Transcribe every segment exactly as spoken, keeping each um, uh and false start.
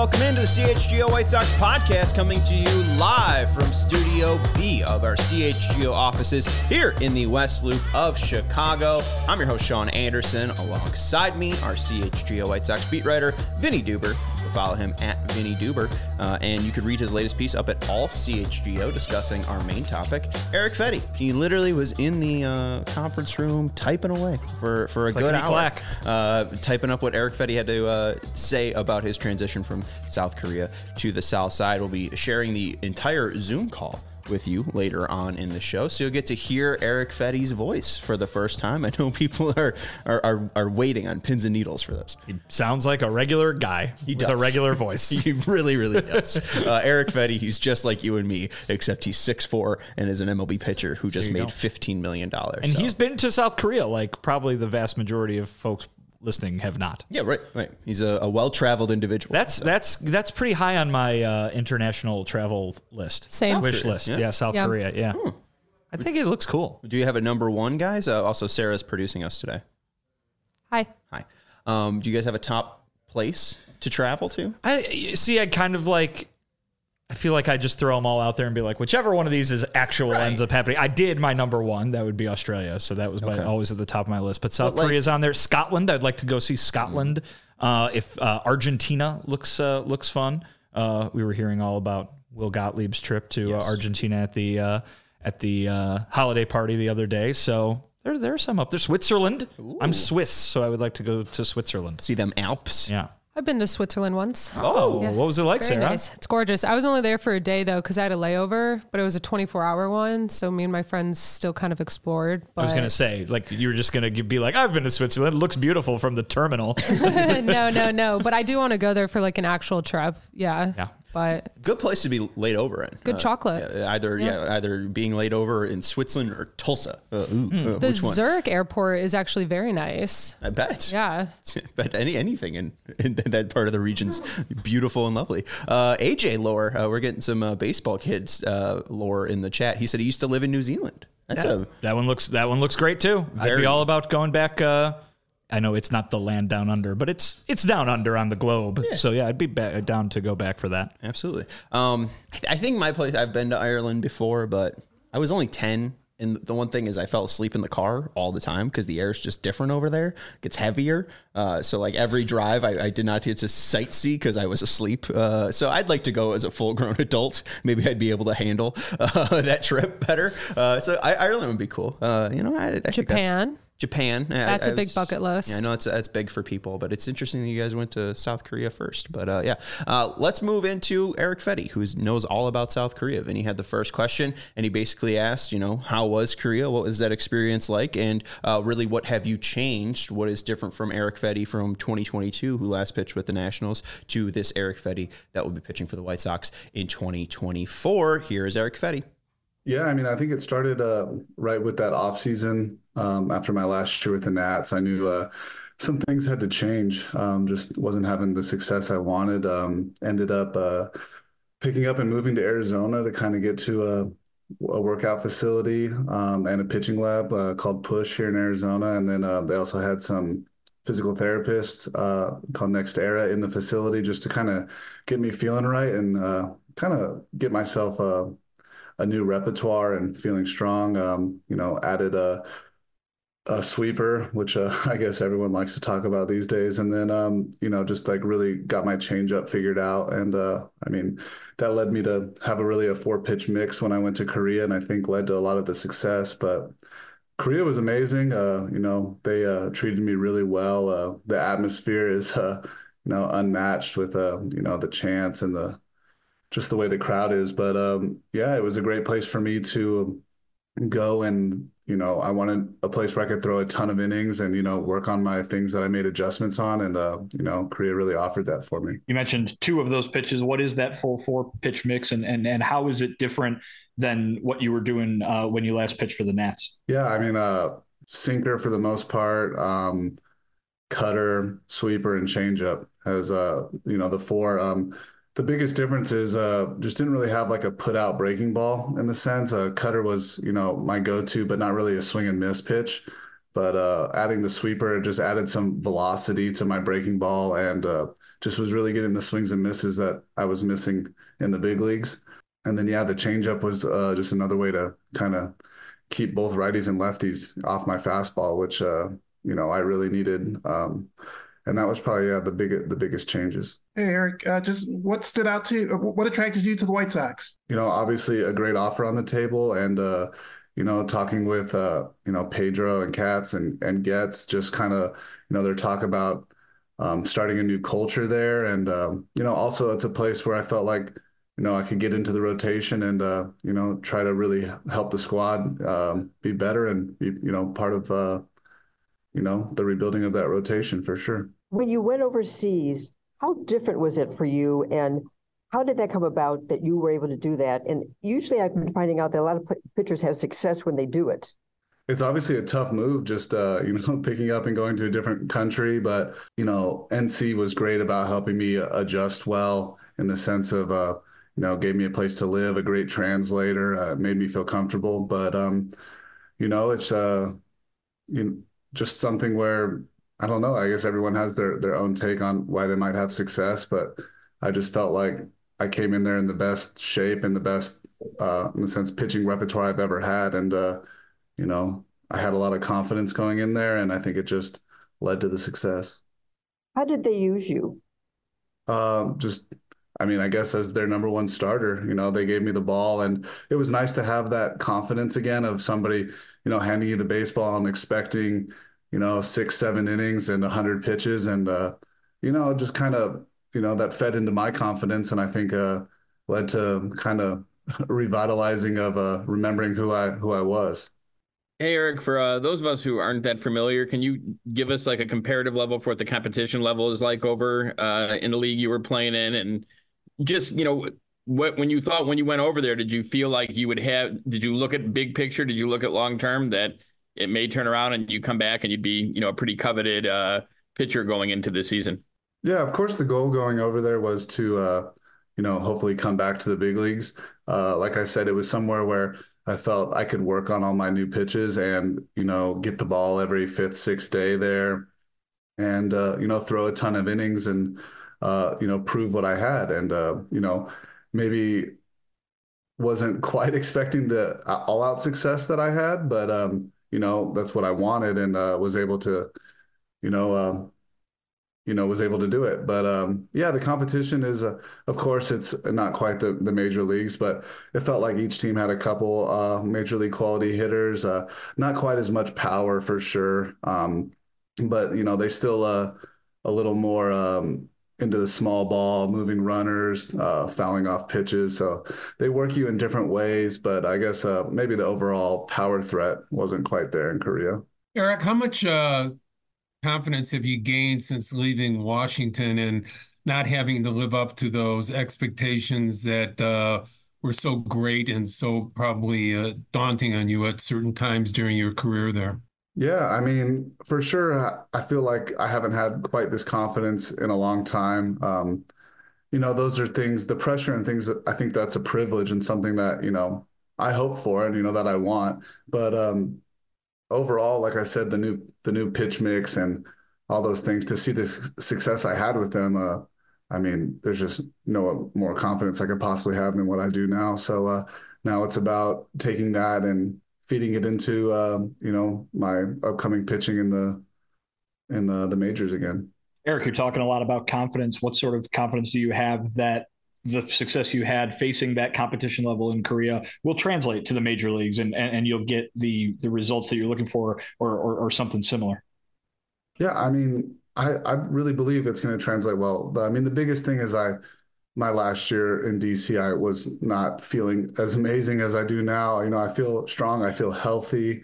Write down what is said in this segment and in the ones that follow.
welcome into the C H G O White Sox podcast, coming to you live from Studio B of our C H G O offices here in the West Loop of Chicago. I'm your host, Sean Anderson. Alongside me, our C H G O White Sox beat writer, Vinny Duber. Follow him at Vinny Duber, uh, and you could read his latest piece up at All C H G O discussing our main topic, Erick Fedde. He literally was in the uh, conference room typing away for, for a like good hour, uh, typing up what Erick Fedde had to uh, say about his transition from South Korea to the South Side. We'll be sharing the entire Zoom call with you later on in the show, so you'll get to hear Erick Fedde's voice for the first time. I know people are are, are, are waiting on pins and needles for this. He sounds like a regular guy he with does. a regular voice. He really, really does. Uh, Erick Fedde, he's just like you and me, except he's six foot four and is an M L B pitcher who just made go. fifteen million dollars. And so. he's been to South Korea, like probably the vast majority of folks listening have not. Yeah, right, right. He's a, a well-traveled individual. That's so. that's that's pretty high on my uh, international travel list. Same. Wish Korea, list. yeah, yeah South yeah. Korea. Yeah. Hmm. I think it looks cool. Do you have a number one, guys? Uh, also, Sarah's producing us today. Hi. Hi. Um, do you guys have a top place to travel to? I see. I kind of like. I feel like I just throw them all out there and be like, whichever one of these is actual right. ends up happening. I did my number one. That would be Australia. So that was my, okay. always at the top of my list. But South like, Korea's on there. Scotland. I'd like to go see Scotland. Mm-hmm. Uh, if uh, Argentina looks uh, looks fun. Uh, we were hearing all about Will Gottlieb's trip to yes. uh, Argentina at the uh, at the uh, holiday party the other day. So there there's some up there. Switzerland. Ooh. I'm Swiss, so I would like to go to Switzerland. See them Alps. Yeah. I've been to Switzerland once. Oh, yeah. What was it like, Very Sarah? Nice. It's gorgeous. I was only there for a day, though, because I had a layover, but it was a twenty-four hour one, so me and my friends still kind of explored. But... I was going to say, like, you were just going to be like, I've been to Switzerland. It looks beautiful from the terminal. no, no, no. But I do want to go there for, like, an actual trip. Yeah. Yeah. But good place to be laid over in. Good uh, chocolate. Yeah, either yeah. yeah, either being laid over in Switzerland or Tulsa. Uh, ooh, mm. uh, the which one? Zurich airport is actually very nice. I bet. Yeah. But any anything in, in that part of the region's beautiful and lovely. Uh, A J lore, uh, we're getting some uh, baseball kids uh, lore in the chat. He said he used to live in New Zealand. That's yeah. a that one looks that one looks great too. Very, I'd be all about going back. Uh, I know it's not the land down under, but it's it's down under on the globe. Yeah. So yeah, I'd be back, down to go back for that. Absolutely. Um, I, th- I think my place. I've been to Ireland before, but I was only ten, and the one thing is I fell asleep in the car all the time because the air is just different over there. It gets heavier. Uh, so like every drive, I, I did not get to sightsee because I was asleep. Uh, so I'd like to go as a full grown adult. Maybe I'd be able to handle uh, that trip better. Uh, so I, Ireland would be cool. Uh, you know, I, I Japan. Japan. That's I, a big bucket list. Yeah, I know it's that's big for people, but it's interesting that you guys went to South Korea first. But uh, yeah, uh, let's move into Erick Fedde, who knows all about South Korea. Vinny had the first question, and he basically asked, you know, how was Korea? What was that experience like? And uh, really, what have you changed? What is different from Erick Fedde from twenty twenty-two, who last pitched with the Nationals, to this Erick Fedde that will be pitching for the White Sox in twenty twenty-four? Here is Erick Fedde. Yeah, I mean, I think it started uh, right with that offseason. Um, after my last year with the Nats, I knew uh, some things had to change. Um, just wasn't having the success I wanted. Um, ended up uh, picking up and moving to Arizona to kind of get to a, a workout facility um, and a pitching lab uh, called Push here in Arizona. And then uh, they also had some physical therapists uh, called Next Era in the facility just to kind of get me feeling right and uh, kind of get myself uh, a new repertoire and feeling strong. Um, you know, added a, a sweeper, which uh, I guess everyone likes to talk about these days. And then, um, you know, just like really got my changeup figured out. And uh, I mean, that led me to have a really a four pitch mix when I went to Korea, and I think led to a lot of the success. But Korea was amazing. Uh, you know, they uh, treated me really well. Uh, the atmosphere is, uh, you know, unmatched with, uh, you know, the chants and the just the way the crowd is. But um, yeah, it was a great place for me to go, and, you know, I wanted a place where I could throw a ton of innings and, you know, work on my things that I made adjustments on. And, uh, you know, Korea really offered that for me. You mentioned two of those pitches. What is that full four pitch mix, and, and, and how is it different than what you were doing uh, when you last pitched for the Nats? Yeah, I mean, uh, sinker for the most part, um, cutter, sweeper, and changeup as, uh, you know, the four. Um, The biggest difference is uh, just didn't really have like a put out breaking ball in the sense. Uh, cutter was, you know, my go-to, but not really a swing and miss pitch. but uh, adding the sweeper just added some velocity to my breaking ball, and uh, just was really getting the swings and misses that I was missing in the big leagues. And then, yeah, the changeup was uh, just another way to kind of keep both righties and lefties off my fastball, which, uh, you know, I really needed. Um, and that was probably yeah, the big, the biggest changes. Hey, Eric, uh, just what stood out to you? What attracted you to the White Sox? You know, obviously a great offer on the table, and, uh, you know, talking with, uh, you know, Pedro and Katz and, and Getz, just kind of, you know, their talk about um, starting a new culture there. And, um, you know, also it's a place where I felt like, you know, I could get into the rotation and, uh, you know, try to really help the squad um, be better and be, you know, part of, uh, you know, the rebuilding of that rotation for sure. When you went overseas, how different was it for you? And how did that come about that you were able to do that? And usually I've been finding out that a lot of pitchers have success when they do it. It's obviously a tough move, just, uh, you know, picking up and going to a different country. But, you know, N C was great about helping me adjust well in the sense of, uh, you know, gave me a place to live, a great translator, uh, made me feel comfortable. But, um, you know, it's uh, you know, just something where, I don't know, I guess everyone has their, their own take on why they might have success. But I just felt like I came in there in the best shape and the best, uh, in the sense, pitching repertoire I've ever had. And, uh, you know, I had a lot of confidence going in there, and I think it just led to the success. How did they use you? Um, just I mean, I guess as their number one starter, you know, they gave me the ball, and it was nice to have that confidence again of somebody, you know, handing you the baseball and expecting, you know, six, seven innings and a hundred pitches. And, uh, you know, just kind of, you know, that fed into my confidence. And I think, uh, led to kind of revitalizing of, uh, remembering who I, who I was. Hey, Eric, for uh, those of us who aren't that familiar, can you give us like a comparative level for what the competition level is like over uh, in the league you were playing in? And just, you know, what when you thought when you went over there, did you feel like you would have, did you look at big picture? Did you look at long term that it may turn around and you come back and you'd be, you know, a pretty coveted uh, pitcher going into the season? Yeah, of course, the goal going over there was to, uh, you know, hopefully come back to the big leagues. Uh, like I said, it was somewhere where I felt I could work on all my new pitches and, you know, get the ball every fifth, sixth day there and, uh, you know, throw a ton of innings and, uh, you know, prove what I had. And, uh, you know, maybe wasn't quite expecting the all out success that I had, but, um, you know, that's what I wanted and uh, was able to, you know, uh, you know, was able to do it. But um, yeah, the competition is, uh, of course, it's not quite the, the major leagues, but it felt like each team had a couple uh, major league quality hitters, uh, not quite as much power for sure. Um, but, you know, they still uh, a little more um, into the small ball, moving runners, uh, fouling off pitches. So they work you in different ways, but I guess uh, maybe the overall power threat wasn't quite there in Korea. Eric, how much uh... confidence have you gained since leaving Washington and not having to live up to those expectations that uh, were so great and so probably uh, daunting on you at certain times during your career there? Yeah, I mean, for sure, I feel like I haven't had quite this confidence in a long time. Um, you know, those are things, the pressure and things that I think that's a privilege and something that, you know, I hope for and, you know, that I want. But, um, overall, like I said, the new the new pitch mix and all those things, to see the success I had with them, uh, I mean, there's just no more confidence I could possibly have than what I do now. So uh, now it's about taking that and feeding it into uh, you know, my upcoming pitching in the in the, the majors again. Eric, you're talking a lot about confidence. What sort of confidence do you have that the success you had facing that competition level in Korea will translate to the major leagues and, and, and you'll get the, the results that you're looking for or, or, or something similar? Yeah. I mean, I, I really believe it's going to translate well. I mean, the biggest thing is I, my last year in D C, I was not feeling as amazing as I do now. You know, I feel strong. I feel healthy.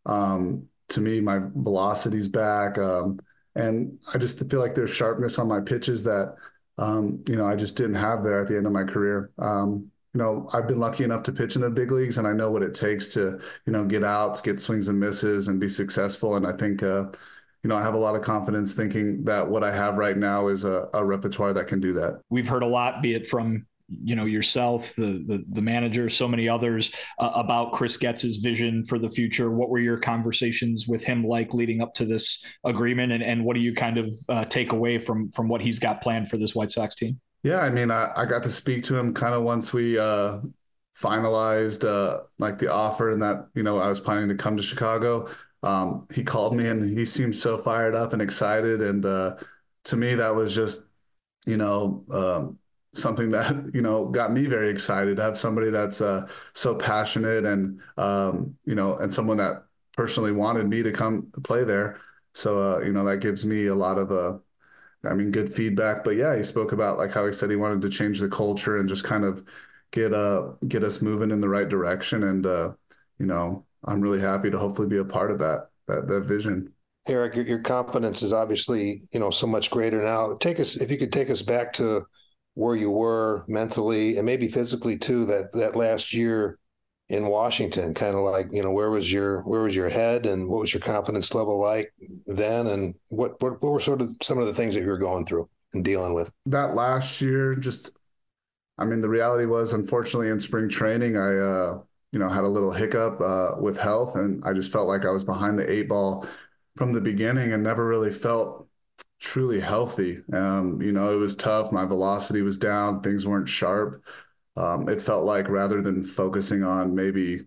Um, to me, my velocity's back. Um, and I just feel like there's sharpness on my pitches that, Um, you know, I just didn't have there at the end of my career. Um, you know, I've been lucky enough to pitch in the big leagues, and I know what it takes to, you know, get outs, get swings and misses, and be successful. And I think, uh, you know, I have a lot of confidence thinking that what I have right now is a, a repertoire that can do that. We've heard a lot, be it from you know, yourself, the the, the manager, so many others uh, about Chris Getz's vision for the future? What were your conversations with him like leading up to this agreement, and, and what do you kind of uh, take away from from what he's got planned for this White Sox team? Yeah, I mean, I, I got to speak to him kind of once we uh, finalized uh, like the offer and that, you know, I was planning to come to Chicago. Um, he called me and he seemed so fired up and excited. And uh, to me, that was just, you know, um, something that, you know, got me very excited to have somebody that's uh, so passionate and, um, you know, and someone that personally wanted me to come play there. So, uh, you know, that gives me a lot of, uh, I mean, good feedback. But yeah, he spoke about like how he said he wanted to change the culture and just kind of get uh get us moving in the right direction. And, uh, you know, I'm really happy to hopefully be a part of that, that, that vision. Eric, your, your confidence is obviously, you know, so much greater now. Take us, if you could take us back to where you were mentally and maybe physically too, that, that last year in Washington, kind of like, you know, where was your, where was your head and what was your confidence level like then? And what, what, what were sort of some of the things that you were going through and dealing with? That last year, just, I mean, the reality was, unfortunately, in spring training, I, uh, you know, had a little hiccup uh, with health, and I just felt like I was behind the eight ball from the beginning and never really felt truly healthy. Um, you know, it was tough. My velocity was down. Things weren't sharp. Um, it felt like rather than focusing on maybe,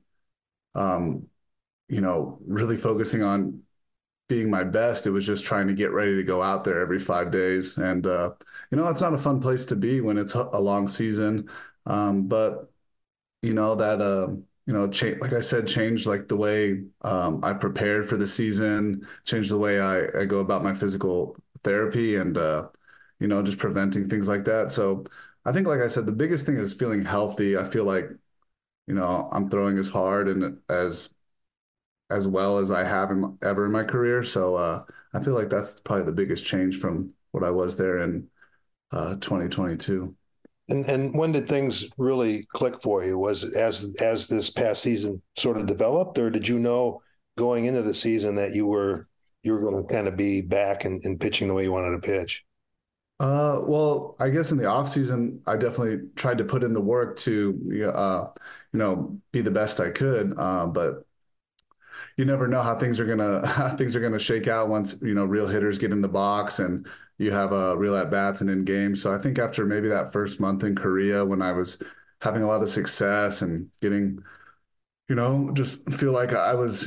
um, you know, really focusing on being my best, it was just trying to get ready to go out there every five days. And, uh, you know, it's not a fun place to be when it's a long season. Um, but, you know, that, uh, you know, cha- like I said, changed like the way um, I prepared for the season, changed the way I, I go about my physical therapy and, uh, you know, just preventing things like that. So I think, like I said, the biggest thing is feeling healthy. I feel like, you know, I'm throwing as hard and as as well as I have in, ever in my career. So uh, I feel like that's probably the biggest change from what I was there in uh, twenty twenty-two. And and when did things really click for you? Was it as as this past season sort of developed, or did you know going into the season that you were you were going to kind of be back and, and pitching the way you wanted to pitch? Uh, well, I guess in the off season, I definitely tried to put in the work to, uh, you know, be the best I could. Uh, but you never know how things are gonna how things are gonna shake out once, you know, real hitters get in the box and you have a uh, real at bats and in games. So I think after maybe that first month in Korea, when I was having a lot of success and getting, you know, just feel like I was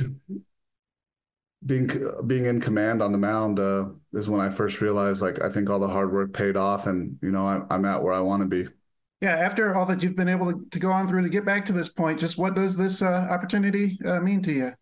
being being in command on the mound, uh, is when I first realized, like, I think all the hard work paid off, and you know, I, I'm at where I want to be. Yeah, after all that you've been able to, to go on through to get back to this point, just what does this uh, opportunity uh, mean to you?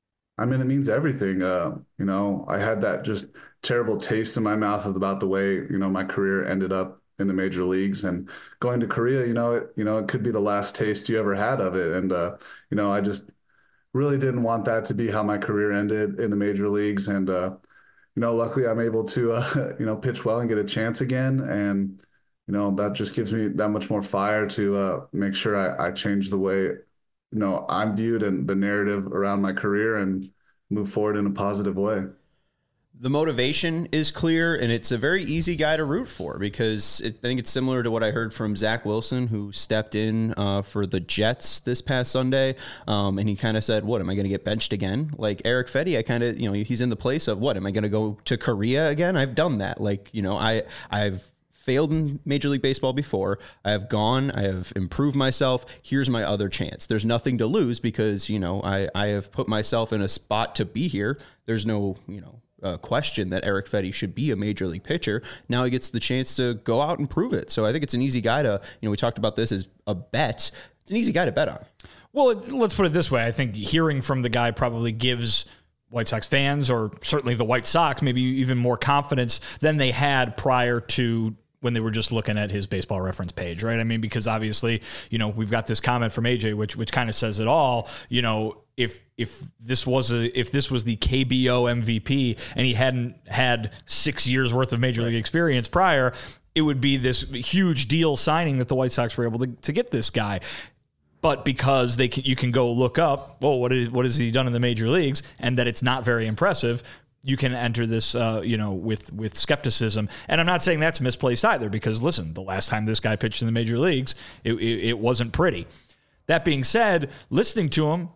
I mean, it means everything. Uh, you know, I had that just terrible taste in my mouth about the way, you know, my career ended up in the major leagues, and going to Korea, you know, it, you know, it could be the last taste you ever had of it. And, uh, you know, I just really didn't want that to be how my career ended in the major leagues. And, uh, you know, luckily I'm able to, uh, you know, pitch well and get a chance again. And, you know, that just gives me that much more fire to uh, make sure I, I change the way, you know, I'm viewed and the narrative around my career and move forward in a positive way. The motivation is clear, and it's a very easy guy to root for because it, I think it's similar to what I heard from Zach Wilson, who stepped in uh, for the Jets this past Sunday. Um, and he kind of said, what, am I going to get benched again? Like Erick Fedde, I kind of, you know, he's in the place of, what, am I going to go to Korea again? I've done that. Like, you know, I, I've failed in Major League Baseball before. I have gone, I have improved myself. Here's my other chance. There's nothing to lose because, you know, I, I have put myself in a spot to be here. There's no, you know, Uh, question that Erick Fedde should be a major league pitcher. Now he gets the chance to go out and prove it. So I think it's an easy guy to, you know, we talked about this as a bet. It's an easy guy to bet on. Well, let's put it this way. I think hearing from the guy probably gives White Sox fans, or certainly the White Sox, maybe even more confidence than they had prior to when they were just looking at his Baseball Reference page, right? I mean, because obviously, you know, we've got this comment from A J, which which kind of says it all. You know, if if this was a if this was the K B O M V P and he hadn't had six years worth of Major League experience prior, it would be this huge deal signing that the White Sox were able to, to get this guy. But because they can, you can go look up, well, what is what has he done in the major leagues, and that it's not very impressive. you can enter this, uh, you know, with with skepticism. And I'm not saying that's misplaced either, because listen, the last time this guy pitched in the major leagues, it, it, it wasn't pretty. That being said, listening to him,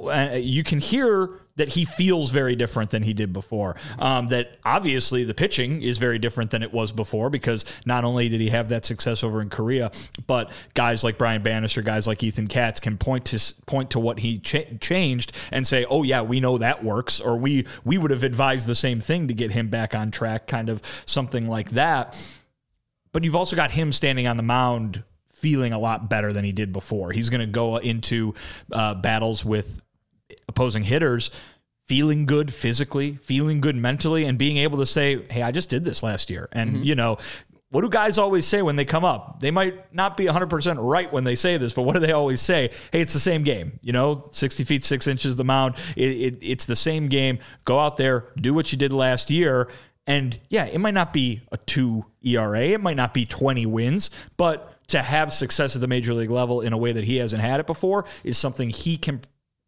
you can hear that he feels very different than he did before. Um, that obviously the pitching is very different than it was before, because not only did he have that success over in Korea, but guys like Brian Bannister, guys like Ethan Katz can point to point to what he ch- changed and say, oh yeah, we know that works, or we we would have advised the same thing to get him back on track, kind of something like that. But you've also got him standing on the mound feeling a lot better than he did before. He's going to go into uh, battles with opposing hitters feeling good physically, feeling good mentally, and being able to say, hey, I just did this last year. And, mm-hmm. you know, what do guys always say when they come up? They might not be one hundred percent right when they say this, but what do they always say? Hey, it's the same game. You know, sixty feet, six inches the mound. It, it, it's the same game. Go out there, do what you did last year. And, yeah, it might not be a two E R A. It might not be twenty wins, but to have success at the major league level in a way that he hasn't had it before is something he can,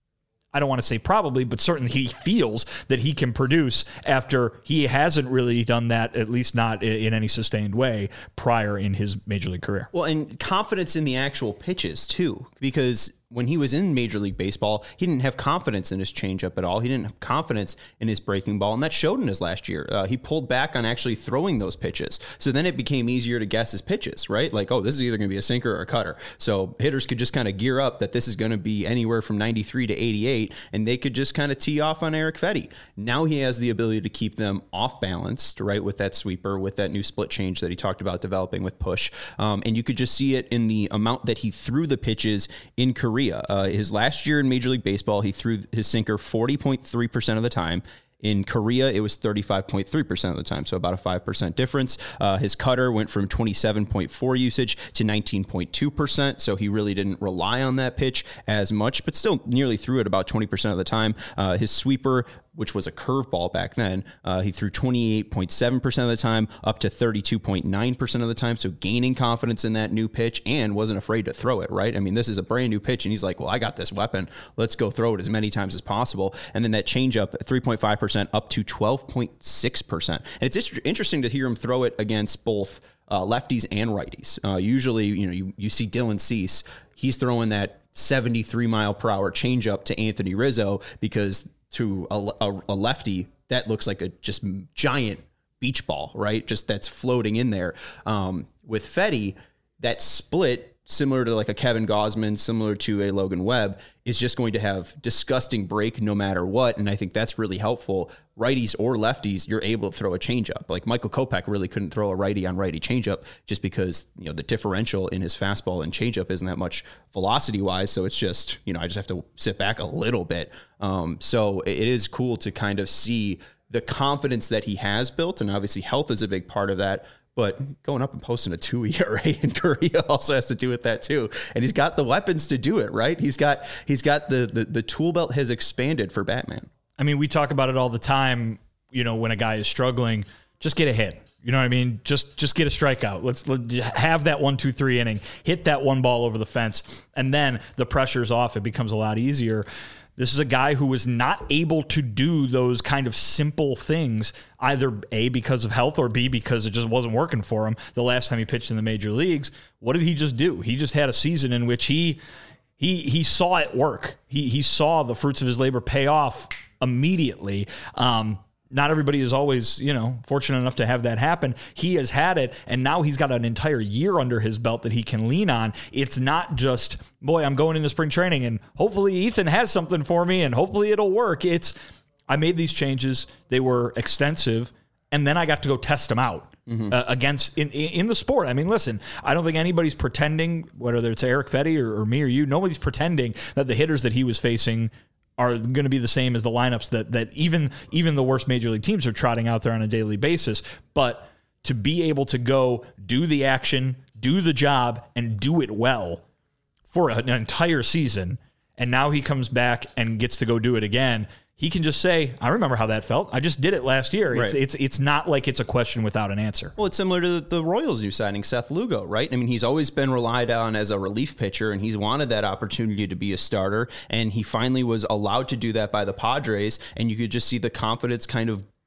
I don't want to say probably, but certainly he feels that he can produce after he hasn't really done that, at least not in any sustained way, prior in his major league career. Well, and confidence in the actual pitches, too, because when he was in Major League Baseball, he didn't have confidence in his changeup at all. He didn't have confidence in his breaking ball, and that showed in his last year. Uh, he pulled back on actually throwing those pitches. So then it became easier to guess his pitches, right? Like, oh, this is either going to be a sinker or a cutter. So hitters could just kind of gear up that this is going to be anywhere from ninety-three to eighty-eight, and they could just kind of tee off on Erick Fedde. Now he has the ability to keep them off balanced, right, with that sweeper, with that new split change that he talked about developing with push. Um, and you could just see it in the amount that he threw the pitches in Korea. Uh, his last year in Major League Baseball, he threw his sinker forty point three percent of the time. In Korea, it was thirty-five point three percent of the time, so about a five percent difference. Uh, his cutter went from twenty-seven point four usage to nineteen point two percent, so he really didn't rely on that pitch as much, but still nearly threw it about twenty percent of the time. Uh, his sweeper, which was a curveball back then, uh, he threw twenty-eight point seven percent of the time, up to thirty-two point nine percent of the time, so gaining confidence in that new pitch and wasn't afraid to throw it, right? I mean, this is a brand new pitch, and he's like, well, I got this weapon. Let's go throw it as many times as possible. And then that changeup, three point five percent up to twelve point six percent. And it's interesting to hear him throw it against both uh, lefties and righties. Uh, usually, you know, you, you see Dylan Cease, he's throwing that seventy-three mile per hour changeup to Anthony Rizzo because to a, a, a lefty, that looks like a just giant beach ball, right? Just that's floating in there. Um, with Fedde, that split, similar to like a Kevin Gausman, similar to a Logan Webb, is just going to have disgusting break no matter what. And I think that's really helpful. Righties or lefties, you're able to throw a changeup. Like Michael Kopech really couldn't throw a righty on righty changeup just because, you know, the differential in his fastball and changeup isn't that much velocity wise. So it's just, you know, I just have to sit back a little bit. Um, so it is cool to kind of see the confidence that he has built. And obviously health is a big part of that. But going up and posting a two E R A in Korea also has to do with that too. And he's got the weapons to do it, right? He's got he's got the the, the tool belt has expanded for Batman. I mean, we talk about it all the time, you know, when a guy is struggling, just get a hit. You know what I mean? Just just get a strikeout. Let's let, have that one, two, three inning, hit that one ball over the fence, and then the pressure's off. It becomes a lot easier. This is a guy who was not able to do those kind of simple things, either A, because of health, or B, because it just wasn't working for him the last time he pitched in the major leagues. What did he just do? He just had a season in which he he he saw it work. He he saw the fruits of his labor pay off immediately. Um, Not everybody is always, you know, fortunate enough to have that happen. He has had it, and now he's got an entire year under his belt that he can lean on. It's not just, boy, I'm going into spring training, and hopefully Ethan has something for me, and hopefully it'll work. It's, I made these changes. They were extensive, and then I got to go test them out mm-hmm. uh, against in, in the sport. I mean, listen, I don't think anybody's pretending, whether it's Erick Fedde or, or me or you, nobody's pretending that the hitters that he was facing are going to be the same as the lineups that that even even the worst major league teams are trotting out there on a daily basis. But to be able to go do the action, do the job, and do it well for an entire season, and now he comes back and gets to go do it again, he can just say, I remember how that felt. I just did it last year. Right. It's, it's it's not like it's a question without an answer. Well, it's similar to the Royals' new signing, Seth Lugo, right? I mean, he's always been relied on as a relief pitcher, and he's wanted that opportunity to be a starter, and he finally was allowed to do that by the Padres, and you could just see the confidence kind of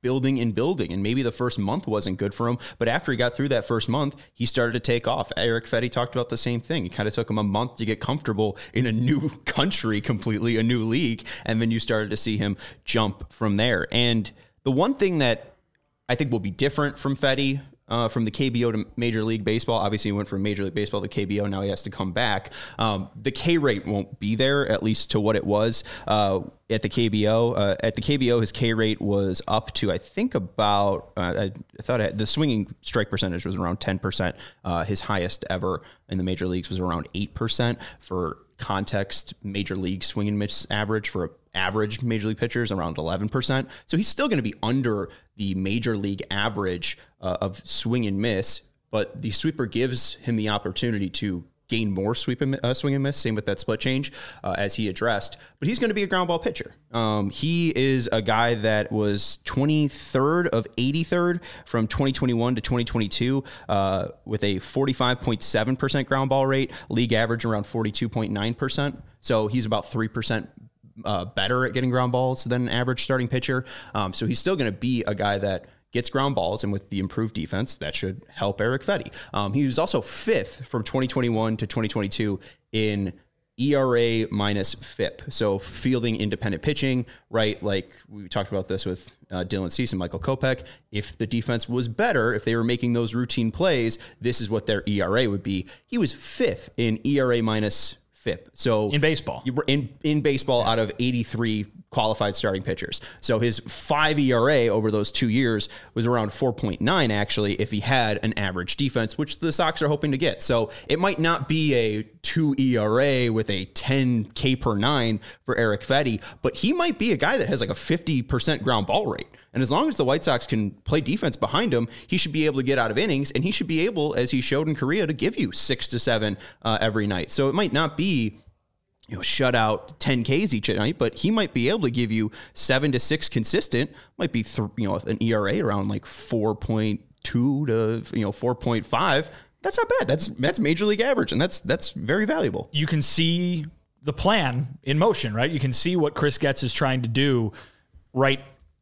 building and building. And maybe the first month wasn't good for him, but after he got through that first month, he started to take off. Erick Fedde talked about the same thing. It kind of took him a month to get comfortable in a new country, completely a new league. And then you started to see him jump from there. And the one thing that I think will be different from Fedde, Uh, from the K B O to Major League Baseball. Obviously, he went from Major League Baseball to K B O. Now he has to come back. Um, the K rate won't be there, at least to what it was uh, at the K B O. Uh, at the K B O, his K rate was up to, I think, about, uh, I, I thought I had, the swinging strike percentage was around ten percent. Uh, his highest ever in the major leagues was around eight percent. For context, Major League swing and miss average for a average major league pitchers around eleven percent. So he's still going to be under the major league average uh, of swing and miss, but the sweeper gives him the opportunity to gain more sweep and uh, swing and miss. Same with that split change uh, as he addressed, but he's going to be a ground ball pitcher. Um, he is a guy that was twenty-third of eighty-third from twenty twenty-one to twenty twenty-two uh, with a forty-five point seven percent ground ball rate, league average around forty-two point nine percent. So he's about three percent Uh, better at getting ground balls than an average starting pitcher. Um, so he's still going to be a guy that gets ground balls, and with the improved defense, that should help Erick Fedde. Um, he was also fifth from twenty twenty-one to twenty twenty-two in E R A minus F I P. So fielding independent pitching, right? Like we talked about this with uh, Dylan Cease and Michael Kopech. If the defense was better, if they were making those routine plays, this is what their E R A would be. He was fifth in E R A minus F I P. So in baseball, in in baseball, yeah. Out of eighty-three qualified starting pitchers, so his five E R A over those two years was around four point nine. Actually, if he had an average defense, which the Sox are hoping to get, so it might not be a two E R A with a ten K per nine for Erick Fedde, but he might be a guy that has like a fifty percent ground ball rate. And as long as the White Sox can play defense behind him, he should be able to get out of innings, and he should be able, as he showed in Korea, to give you six to seven uh, every night. So it might not be, you know, shut out ten Ks each night, but he might be able to give you seven to six consistent. Might be, th- you know, an E R A around like four point two to, you know, four point five. That's not bad. That's that's major league average, and that's that's very valuable. You can see the plan in motion, right? You can see what Chris Getz is trying to do right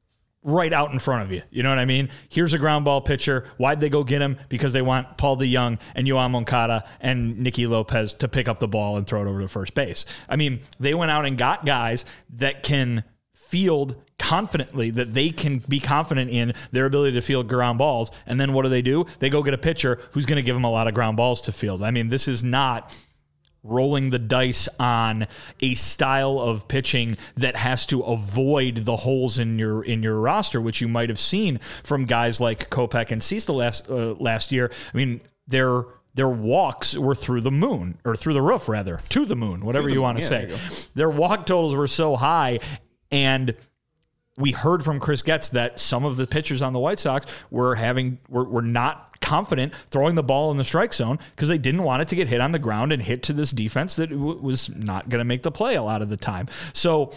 right out in front of you. You know what I mean? Here's a ground ball pitcher. Why'd they go get him? Because they want Paul DeJong and Yoan Moncada and Nicky Lopez to pick up the ball and throw it over to first base. I mean, they went out and got guys that can field confidently, that they can be confident in their ability to field ground balls. And then what do they do? They go get a pitcher who's going to give them a lot of ground balls to field. I mean, this is not rolling the dice on a style of pitching that has to avoid the holes in your in your roster, which you might have seen from guys like Kopech and Cease the last uh, last year. I mean, their their walks were through the moon, or through the roof rather, to the moon, whatever the, you want to yeah, say. Their walk totals were so high, and we heard from Chris Getz that some of the pitchers on the White Sox were having were, were not confident throwing the ball in the strike zone because they didn't want it to get hit on the ground and hit to this defense that w- was not going to make the play a lot of the time. So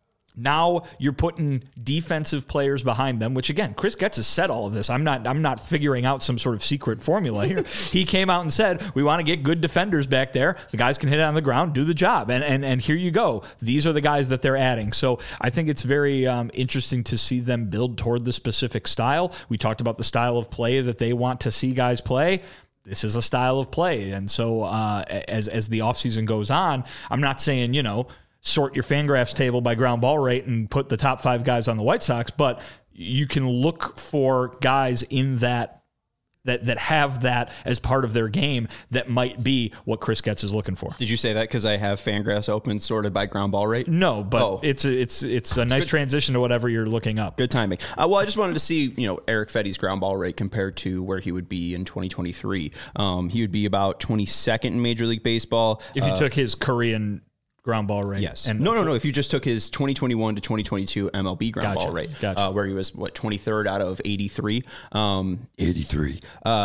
now you're putting defensive players behind them, which again, Chris Getz has said all of this. I'm not, I'm not figuring out some sort of secret formula here. He came out and said, we want to get good defenders back there. The guys can hit it on the ground, do the job. And, and, and here you go. These are the guys that they're adding. So I think it's very um, interesting to see them build toward the specific style. We talked about the style of play that they want to see guys play. This is a style of play. And so uh, as, as the offseason goes on, I'm not saying, you know, sort your Fangraphs table by ground ball rate and put the top five guys on the White Sox, but you can look for guys in that that that have that as part of their game that might be what Chris Getz is looking for. Did you say that because I have Fangraphs open sorted by ground ball rate? No, but oh. it's a, it's it's a it's nice good. transition to whatever you're looking up. Good timing. Uh, well, I just wanted to see, you know, Erick Fedde's ground ball rate compared to where he would be in twenty twenty-three. Um, he would be about twenty-second in Major League Baseball. If you uh, took his Korean ground ball rate. Yes. And no, no, no. If you just took his twenty twenty-one to twenty twenty-two M L B ground gotcha, ball rate, gotcha. uh, where he was, what, twenty-third out of eighty-three. Um, eighty-three. Uh,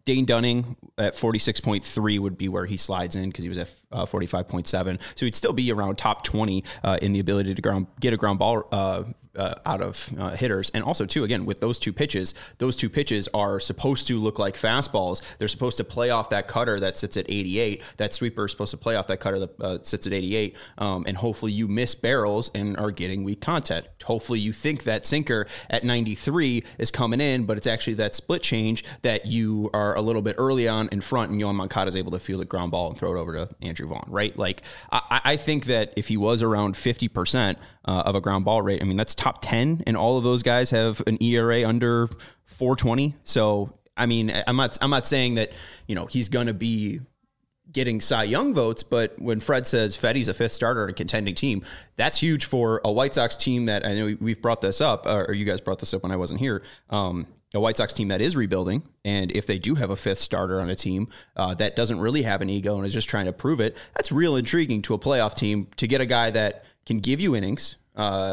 Dane Dunning at forty-six point three would be where he slides in because he was at uh, forty-five point seven. So he'd still be around top twenty uh, in the ability to ground, get a ground ball uh, uh, out of uh, hitters. And also, too, again, with those two pitches, those two pitches are supposed to look like fastballs. They're supposed to play off that cutter that sits at eighty-eight. That sweeper is supposed to play off that cutter that uh, sits at eighty-eight. Um, and hopefully you miss barrels and are getting weak contact. Hopefully you think that sinker at ninety-three is coming in, but it's actually that split change that you are a little bit early on in front, and Yoan Moncada is able to field a ground ball and throw it over to Andrew Vaughn, right? Like, I, I think that if he was around fifty percent uh, of a ground ball rate, I mean, that's top ten, and all of those guys have an E R A under four twenty. So, I mean, I'm not, I'm not saying that, you know, he's going to be getting Cy Young votes, but when Fred says Feddy's a fifth starter on a contending team, that's huge for a White Sox team that, I know we've brought this up, or you guys brought this up when I wasn't here, um, a White Sox team that is rebuilding, and if they do have a fifth starter on a team uh, that doesn't really have an ego and is just trying to prove it, that's real intriguing to a playoff team to get a guy that can give you innings, uh,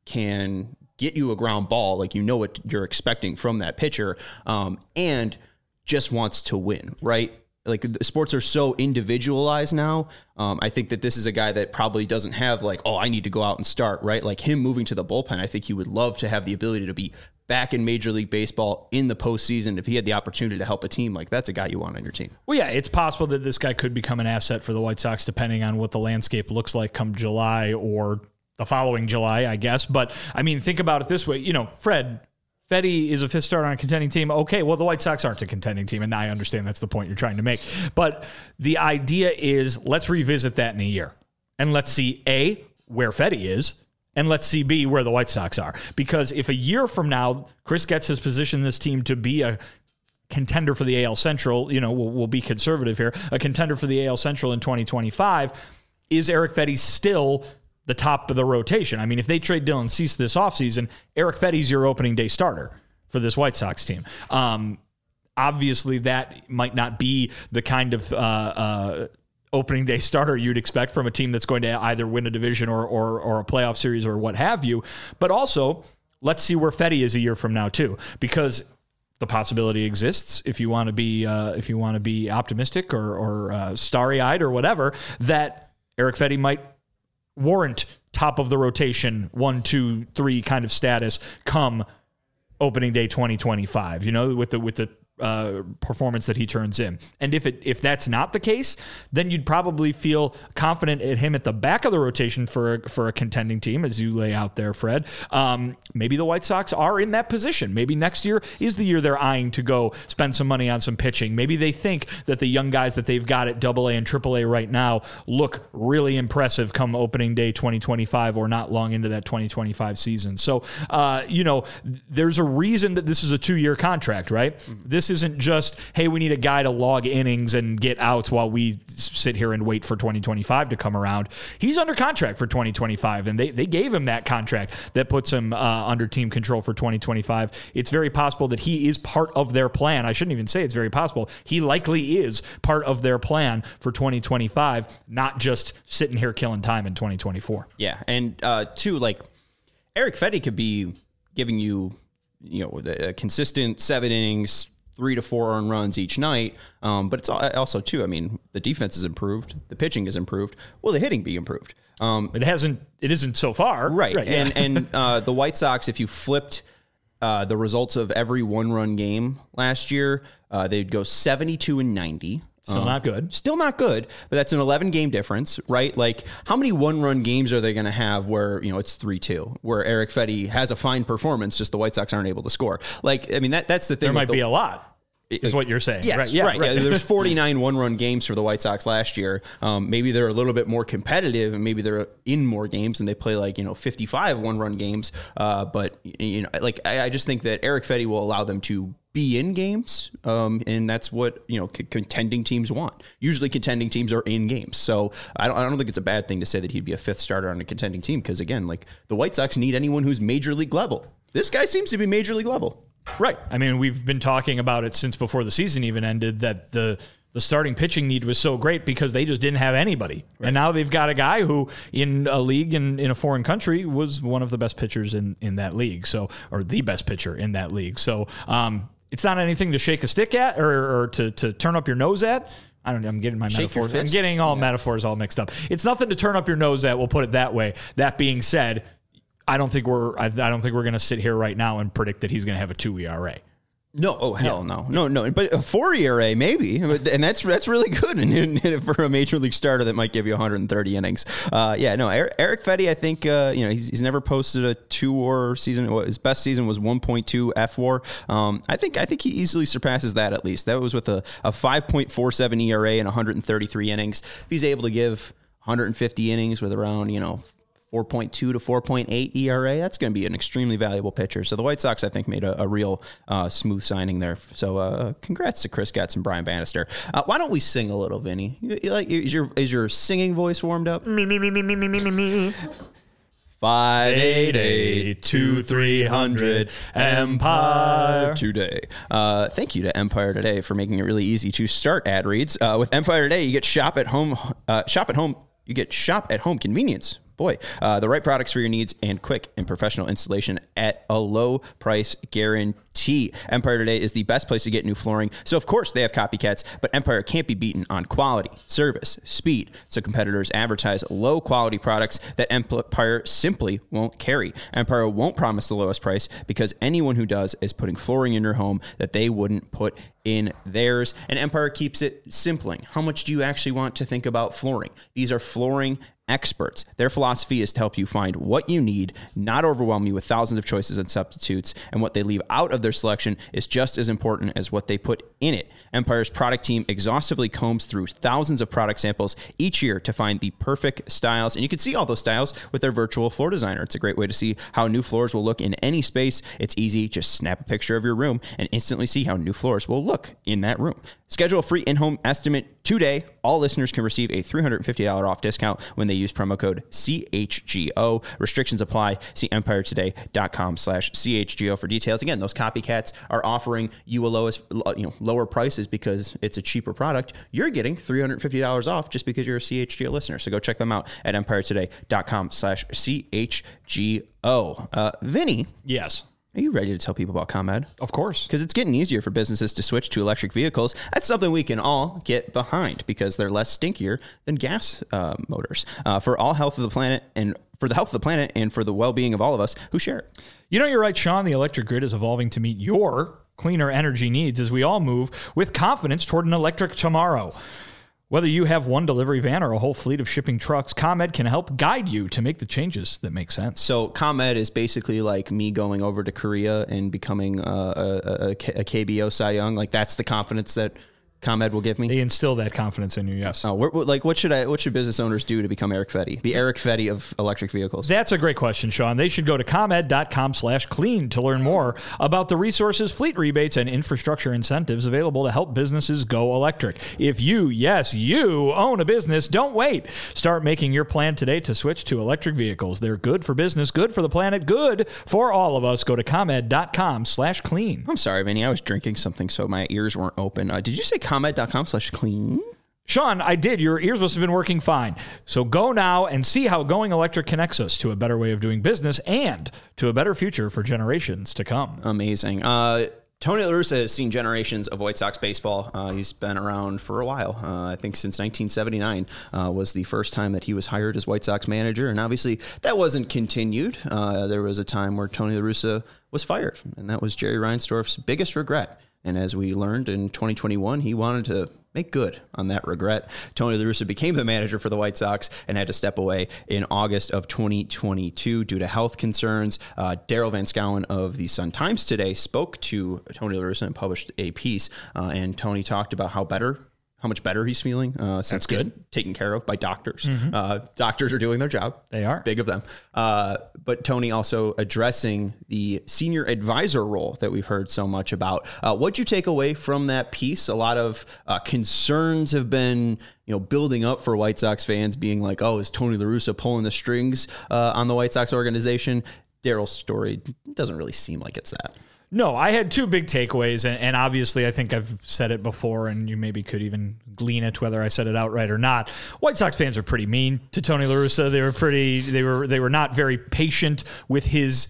can get you a ground ball, like you know what you're expecting from that pitcher, um, and just wants to win, right? Like, the sports are so individualized now. Um, I think that this is a guy that probably doesn't have like, oh, I need to go out and start, right? Like him moving to the bullpen, I think he would love to have the ability to be back in Major League Baseball in the postseason. If he had the opportunity to help a team, like that's a guy you want on your team. Well, yeah, it's possible that this guy could become an asset for the White Sox, depending on what the landscape looks like come July or the following July, I guess. But I mean, think about it this way. You know, Fred, Feddy is a fifth starter on a contending team. Okay, well, the White Sox aren't a contending team, and I understand that's the point you're trying to make. But the idea is, let's revisit that in a year. And let's see, A, where Feddy is, and let's see, B, where the White Sox are. Because if a year from now, Chris Getz has positioned this team to be a contender for the A L Central, you know, we'll, we'll be conservative here, a contender for the A L Central in twenty twenty-five, is Erick Feddy still the top of the rotation? I mean, if they trade Dylan Cease this offseason, Erick Feddy's your opening day starter for this White Sox team. Um, obviously, that might not be the kind of uh, uh, opening day starter you'd expect from a team that's going to either win a division or, or, or a playoff series or what have you. But also, let's see where Feddy is a year from now, too, because the possibility exists, if you want to be uh, if you want to be optimistic or, or uh, starry-eyed or whatever, that Erick Feddy might warrant top of the rotation, one, two, three kind of status come opening day twenty twenty-five, you know, with the with the uh, performance that he turns in. And if it if that's not the case, then you'd probably feel confident at him at the back of the rotation for a, for a contending team, as you lay out there, Fred. Um, maybe the White Sox are in that position. Maybe next year is the year they're eyeing to go spend some money on some pitching. Maybe they think that the young guys that they've got at double A and triple A right now look really impressive come opening day twenty twenty-five or not long into that twenty twenty-five season. So, uh, you know, there's a reason that this is a two-year contract, right? Mm-hmm. This isn't just, hey, we need a guy to log innings and get outs while we sit here and wait for twenty twenty-five to come around. He's under contract for twenty twenty-five, and they, they gave him that contract that puts him uh, under team control for twenty twenty-five. It's very possible that he is part of their plan. I shouldn't even say it's very possible. He likely is part of their plan for twenty twenty-five, not just sitting here killing time in twenty twenty-four. Yeah, and uh, two, like, Erick Feddy could be giving you, you know, a consistent seven innings, three to four earned runs each night. Um, but it's also, too, I mean, the defense is improved. The pitching is improved. Will the hitting be improved? Um, it hasn't, it isn't so far. Right. right and yeah. and uh, the White Sox, if you flipped uh, the results of every one-run game last year, uh, they'd go seventy-two and ninety. Still um, not good. Still not good, but that's an eleven game difference, right? Like, how many one-run games are they going to have where, you know, it's three two, where Erick Feddy has a fine performance, just the White Sox aren't able to score? Like, I mean, that that's the thing. There might the, be a lot. Is what you're saying. Yes, right. Yeah, right. right. Yeah, there's forty-nine one-run games for the White Sox last year. Um, maybe they're a little bit more competitive, and maybe they're in more games, and they play like, you know, fifty-five one-run games. Uh, but you know, like I, I just think that Erick Feddy will allow them to be in games, um, and that's what, you know, c- contending teams want. Usually, contending teams are in games, so I don't, I don't think it's a bad thing to say that he'd be a fifth starter on a contending team, because again, like, the White Sox need anyone who's major league level. This guy seems to be major league level. Right. I mean, we've been talking about it since before the season even ended, that the the starting pitching need was so great because they just didn't have anybody. Right. And now they've got a guy who, in a league in, in a foreign country, was one of the best pitchers in, in that league. So, or the best pitcher in that league. So, um, it's not anything to shake a stick at or, or to, to turn up your nose at. I don't know. I'm getting my Shake metaphors. I'm getting all yeah. metaphors all mixed up. It's nothing to turn up your nose at. We'll put it that way. That being said, I don't think we're, I, I don't think we're going to sit here right now and predict that he's going to have a two E R A. No, oh hell yeah. no, no, no. But a four E R A maybe, and that's that's really good. And, and for a major league starter, that might give you one hundred thirty innings. Uh, yeah, no. Eric, Erick Fedde, I think uh, you know he's, he's never posted a two WAR season. His best season was one point two F WAR. Um, I think I think he easily surpasses that at least. That was with a, a five point four seven E R A and one hundred thirty-three innings. If he's able to give one hundred fifty innings with around you know. four point two to four point eight E R A, that's going to be an extremely valuable pitcher. So the White Sox, I think, made a, a real uh, smooth signing there. So uh, congrats to Chris Getz and Brian Bannister. Uh, why don't we sing a little, Vinny? You, you like, is your is your singing voice warmed up? Me, me, me, me, me, me, me, me. five eight eight, two three hundred Empire Today. Uh, thank you to Empire Today for making it really easy to start ad reads. Uh, with Empire Today, you get shop at home. Uh, shop at home. You get shop at home convenience. Boy, uh, the right products for your needs and quick and professional installation at a low price guarantee. Empire Today is the best place to get new flooring. So, of course, they have copycats, but Empire can't be beaten on quality, service, speed. So competitors advertise low quality products that Empire simply won't carry. Empire won't promise the lowest price because anyone who does is putting flooring in your home that they wouldn't put in theirs. And Empire keeps it simpling. How much do you actually want to think about flooring? These are flooring experts. Their philosophy is to help you find what you need, not overwhelm you with thousands of choices and substitutes, and what they leave out of their selection is just as important as what they put in it. Empire's product team exhaustively combs through thousands of product samples each year to find the perfect styles, and you can see all those styles with their virtual floor designer. It's a great way to see how new floors will look in any space. It's easy. Just snap a picture of your room and instantly see how new floors will look in that room. Schedule a free in-home estimate today. All listeners can receive a three hundred fifty dollars off discount when they use promo code C H G O. Restrictions apply. See empire today dot com slash C H G O for details. Again, those copycats are offering you a lowest, you know, lower prices because it's a cheaper product. You're getting three hundred fifty dollars off just because you're a C H G O listener. So go check them out at empire today dot com slash C H G O. Uh, Vinny. Yes. Are you ready to tell people about ComEd? Of course. Because it's getting easier for businesses to switch to electric vehicles. That's something we can all get behind because they're less stinkier than gas uh, motors. Uh, for all health of the planet and for the health of the planet and for the well-being of all of us who share it. You know, you're right, Sean. The electric grid is evolving to meet your cleaner energy needs as we all move with confidence toward an electric tomorrow. Whether you have one delivery van or a whole fleet of shipping trucks, ComEd can help guide you to make the changes that make sense. So ComEd is basically like me going over to Korea and becoming a, a, a, a K B O Cy Young. Like that's the confidence that ComEd will give me. They instill that confidence in you, yes. Oh, what, like what should I? What should business owners do to become Erick Fedde? The Erick Fedde of electric vehicles. That's a great question, Sean. They should go to ComEd dot com slash clean to learn more about the resources, fleet rebates, and infrastructure incentives available to help businesses go electric. If you, yes, you own a business, don't wait. Start making your plan today to switch to electric vehicles. They're good for business, good for the planet, good for all of us. Go to ComEd dot com slash clean. I'm sorry, Vinny. I was drinking something, so my ears weren't open. Uh, did you say ComEd dot com slash clean? Sean, I did. Your ears must have been working fine. So go now and see how going electric connects us to a better way of doing business and to a better future for generations to come. Amazing. Uh, Tony La Russa has seen generations of White Sox baseball. Uh, he's been around for a while. Uh, I think since nineteen seventy-nine uh, was the first time that he was hired as White Sox manager. And obviously that wasn't continued. Uh, there was a time where Tony La Russa was fired, and that was Jerry Reinsdorf's biggest regret. And as we learned in twenty twenty-one, he wanted to make good on that regret. Tony La Russa became the manager for the White Sox and had to step away in August of twenty twenty-two due to health concerns. Uh, Daryl Van Schouwen of the Sun-Times today spoke to Tony La Russa and published a piece. Uh, and Tony talked about how better how much better he's feeling uh, since That's good. getting taken care of by doctors. Mm-hmm. Uh, doctors are doing their job. They are. Big of them. Uh, but Tony also addressing the senior advisor role that we've heard so much about. Uh, what'd you take away from that piece? A lot of uh, concerns have been you know, building up for White Sox fans being like, oh, is Tony La Russa pulling the strings uh, on the White Sox organization? Daryl's story doesn't really seem like it's that. No, I had two big takeaways, and, and obviously I think I've said it before, and you maybe could even glean it whether I said it outright or not. White Sox fans are pretty mean to Tony La Russa. They were pretty. They were. They were not very patient with his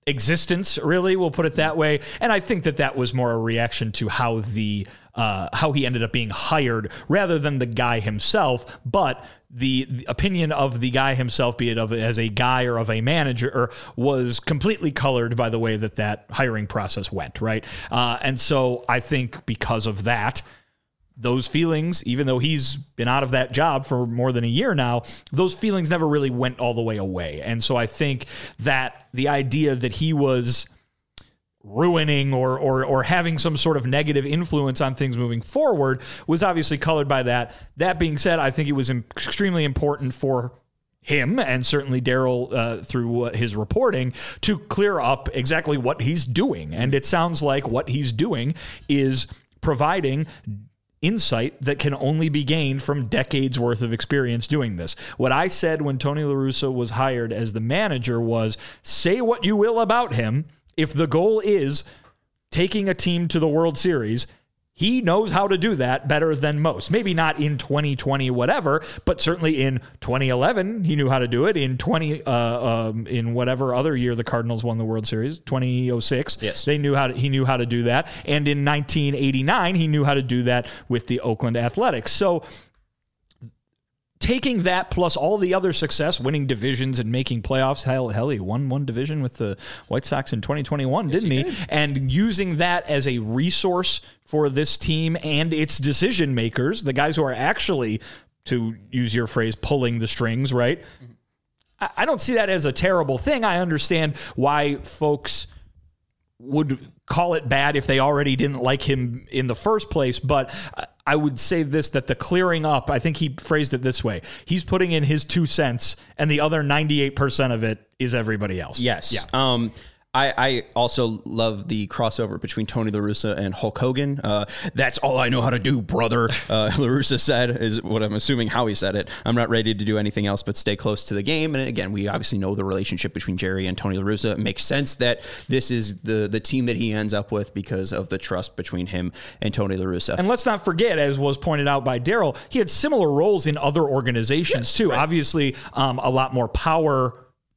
existence, really. We'll put it that way. And I think that that was more a reaction to how the uh, how he ended up being hired rather than the guy himself. But the, the opinion of the guy himself, be it of as a guy or of a manager, was completely colored by the way that that hiring process went, right? Uh, and so I think because of that, those feelings, even though he's been out of that job for more than a year now, those feelings never really went all the way away. And so I think that the idea that he was ruining or or or having some sort of negative influence on things moving forward was obviously colored by that. That being said, I think it was extremely important for him and certainly Daryl uh, through uh, his reporting to clear up exactly what he's doing. And it sounds like what he's doing is providing insight that can only be gained from decades worth of experience doing this. What I said when Tony La Russa was hired as the manager was, say what you will about him, if the goal is taking a team to the World Series, he knows how to do that better than most. Maybe not in twenty twenty, whatever, but certainly in twenty eleven, he knew how to do it. In twenty, uh, um, in whatever other year the Cardinals won the World Series, twenty oh six, yes, they knew how to, he knew how to do that. And in nineteen eighty-nine, he knew how to do that with the Oakland Athletics. So taking that plus all the other success, winning divisions and making playoffs, hell, hell, he won one division with the White Sox in twenty twenty-one, yes, didn't he? he? Did. And using that as a resource for this team and its decision makers, the guys who are actually, to use your phrase, pulling the strings, right? Mm-hmm. I, I don't see that as a terrible thing. I understand why folks would call it bad if they already didn't like him in the first place, but I would say this, that the clearing up, I think he phrased it this way. He's putting in his two cents and the other ninety-eight percent of it is everybody else. Yes. Yeah. Um, I, I also love the crossover between Tony La Russa and Hulk Hogan. Uh, that's all I know how to do, brother. Uh, La Russa said, is what I'm assuming how he said it. I'm not ready to do anything else but stay close to the game. And again, we obviously know the relationship between Jerry and Tony La Russa. It makes sense that this is the, the team that he ends up with because of the trust between him and Tony La Russa. And let's not forget, as was pointed out by Daryl, he had similar roles in other organizations yes, too. Right. Obviously, um, a lot more power,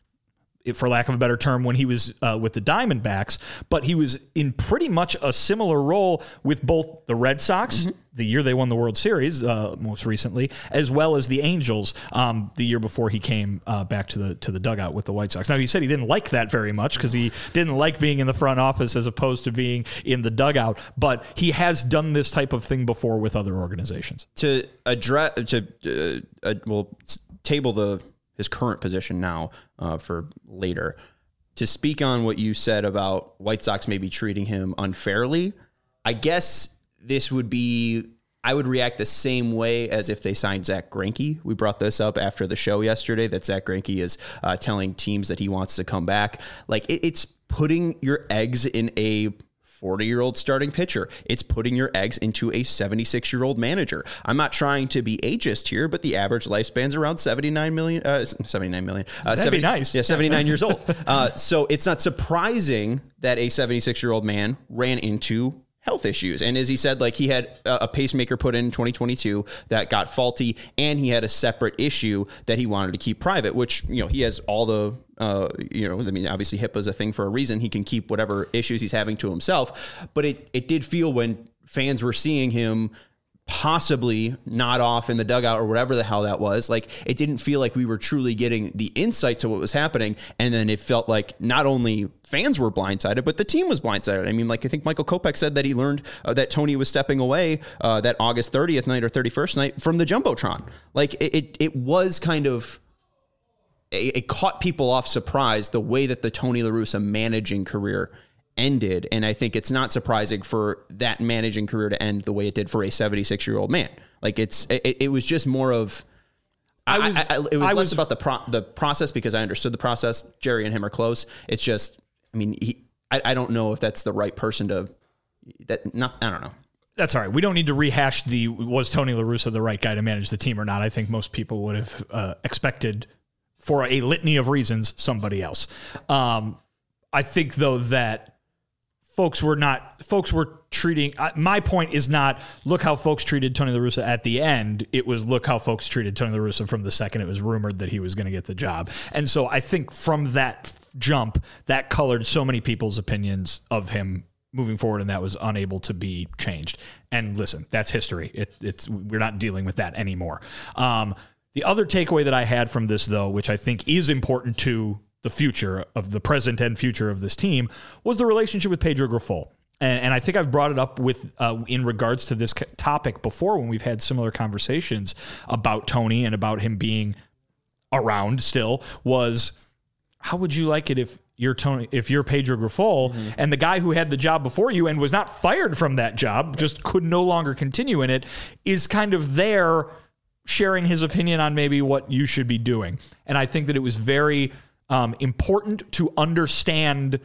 for lack of a better term, when he was uh, with the Diamondbacks, but he was in pretty much a similar role with both the Red Sox, mm-hmm. the year they won the World Series, uh, most recently, as well as the Angels, um, the year before he came uh, back to the to the dugout with the White Sox. Now, he said he didn't like that very much because he didn't like being in the front office as opposed to being in the dugout, but he has done this type of thing before with other organizations. To address, to uh, uh, well, table the his current position now uh, for later. To speak on what you said about White Sox maybe treating him unfairly, I guess this would be, I would react the same way as if they signed Zach Greinke. We brought this up after the show yesterday, that Zach Greinke is uh, telling teams that he wants to come back. Like it, it's putting your eggs in a forty-year-old starting pitcher. It's putting your eggs into a seventy-six-year-old manager. I'm not trying to be ageist here, but the average lifespan's around seventy-nine million. Uh, seventy-nine million. Uh, That'd seventy, be nice. Yeah, seventy-nine years old. Uh, so it's not surprising that a seventy-six-year-old man ran into health issues. And as he said, like he had a pacemaker put in twenty twenty-two that got faulty, and he had a separate issue that he wanted to keep private, which, you know, he has all the, uh, you know, I mean, obviously HIPAA is a thing for a reason. He can keep whatever issues he's having to himself. But it, it did feel when fans were seeing him possibly not off in the dugout or whatever the hell that was, like it didn't feel like we were truly getting the insight to what was happening. And then it felt like not only fans were blindsided, but the team was blindsided. I mean, like I think Michael Kopech said that he learned uh, that Tony was stepping away uh, that August thirtieth night or thirty-first night from the Jumbotron. Like it, it, it was kind of, it, it caught people off surprise the way that the Tony La Russa managing career ended. And I think it's not surprising for that managing career to end the way it did for a seventy-six-year-old man. Like it's, it, it was just more of, I was, I, I, it was I less was, about the pro, the process because I understood the process. Jerry and him are close. It's just, I mean, he, I, I don't know if that's the right person to, that not, I don't know. That's all right. We don't need to rehash the, was Tony La Russa the right guy to manage the team or not? I think most people would have uh, expected, for a litany of reasons, somebody else. Um, I think though that folks were not, folks were treating, uh, my point is not, look how folks treated Tony La Russa at the end. It was, look how folks treated Tony La Russa from the second it was rumored that he was going to get the job. And so I think from that jump, that colored so many people's opinions of him moving forward, and that was unable to be changed. And listen, that's history. It, it's we're not dealing with that anymore. Um, the other takeaway that I had from this, though, which I think is important to the future of the present and future of this team, was the relationship with Pedro Grifol. And, and I think I've brought it up with uh, in regards to this topic before when we've had similar conversations about Tony and about him being around still, was how would you like it if you're Tony, if you're Pedro Grifol, mm-hmm. and the guy who had the job before you and was not fired from that job, just could no longer continue in it, is kind of there sharing his opinion on maybe what you should be doing. And I think that it was very um, important to understand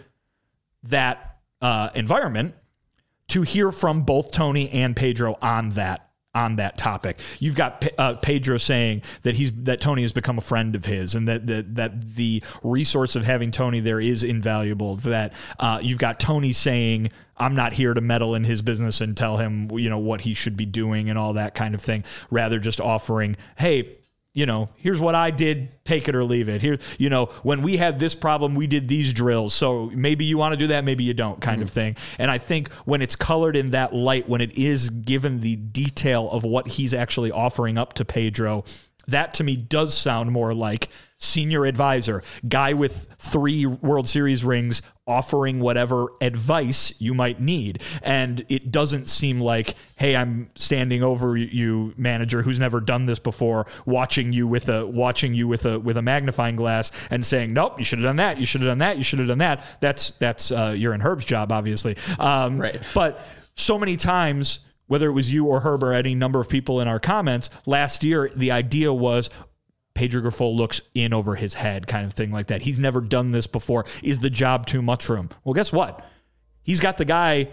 that Uh, environment to hear from both Tony and Pedro on that on that topic. You've got uh, Pedro saying that he's that Tony has become a friend of his, and that that, that the resource of having Tony there is invaluable. That uh, you've got Tony saying, I'm not here to meddle in his business and tell him, you know, what he should be doing and all that kind of thing. Rather, just offering, hey, you know, here's what I did, take it or leave it. Here, you know, when we had this problem, we did these drills. So maybe you want to do that, maybe you don't, kind mm-hmm. of thing. And I think when it's colored in that light, when it is given the detail of what he's actually offering up to Pedro, that to me does sound more like senior advisor, guy with three World Series rings offering whatever advice you might need. And it doesn't seem like, hey, I'm standing over you, manager, who's never done this before, watching you with a watching you with a with a magnifying glass and saying, nope, you should have done that, you should have done that, you should have done that. That's that's uh, you're in Herb's job, obviously. Um, right. But so many times, whether it was you or Herb or any number of people in our comments, last year, the idea was Pedro Grifol looks in over his head, kind of thing like that. He's never done this before. Is the job too much for him? Well, guess what? He's got the guy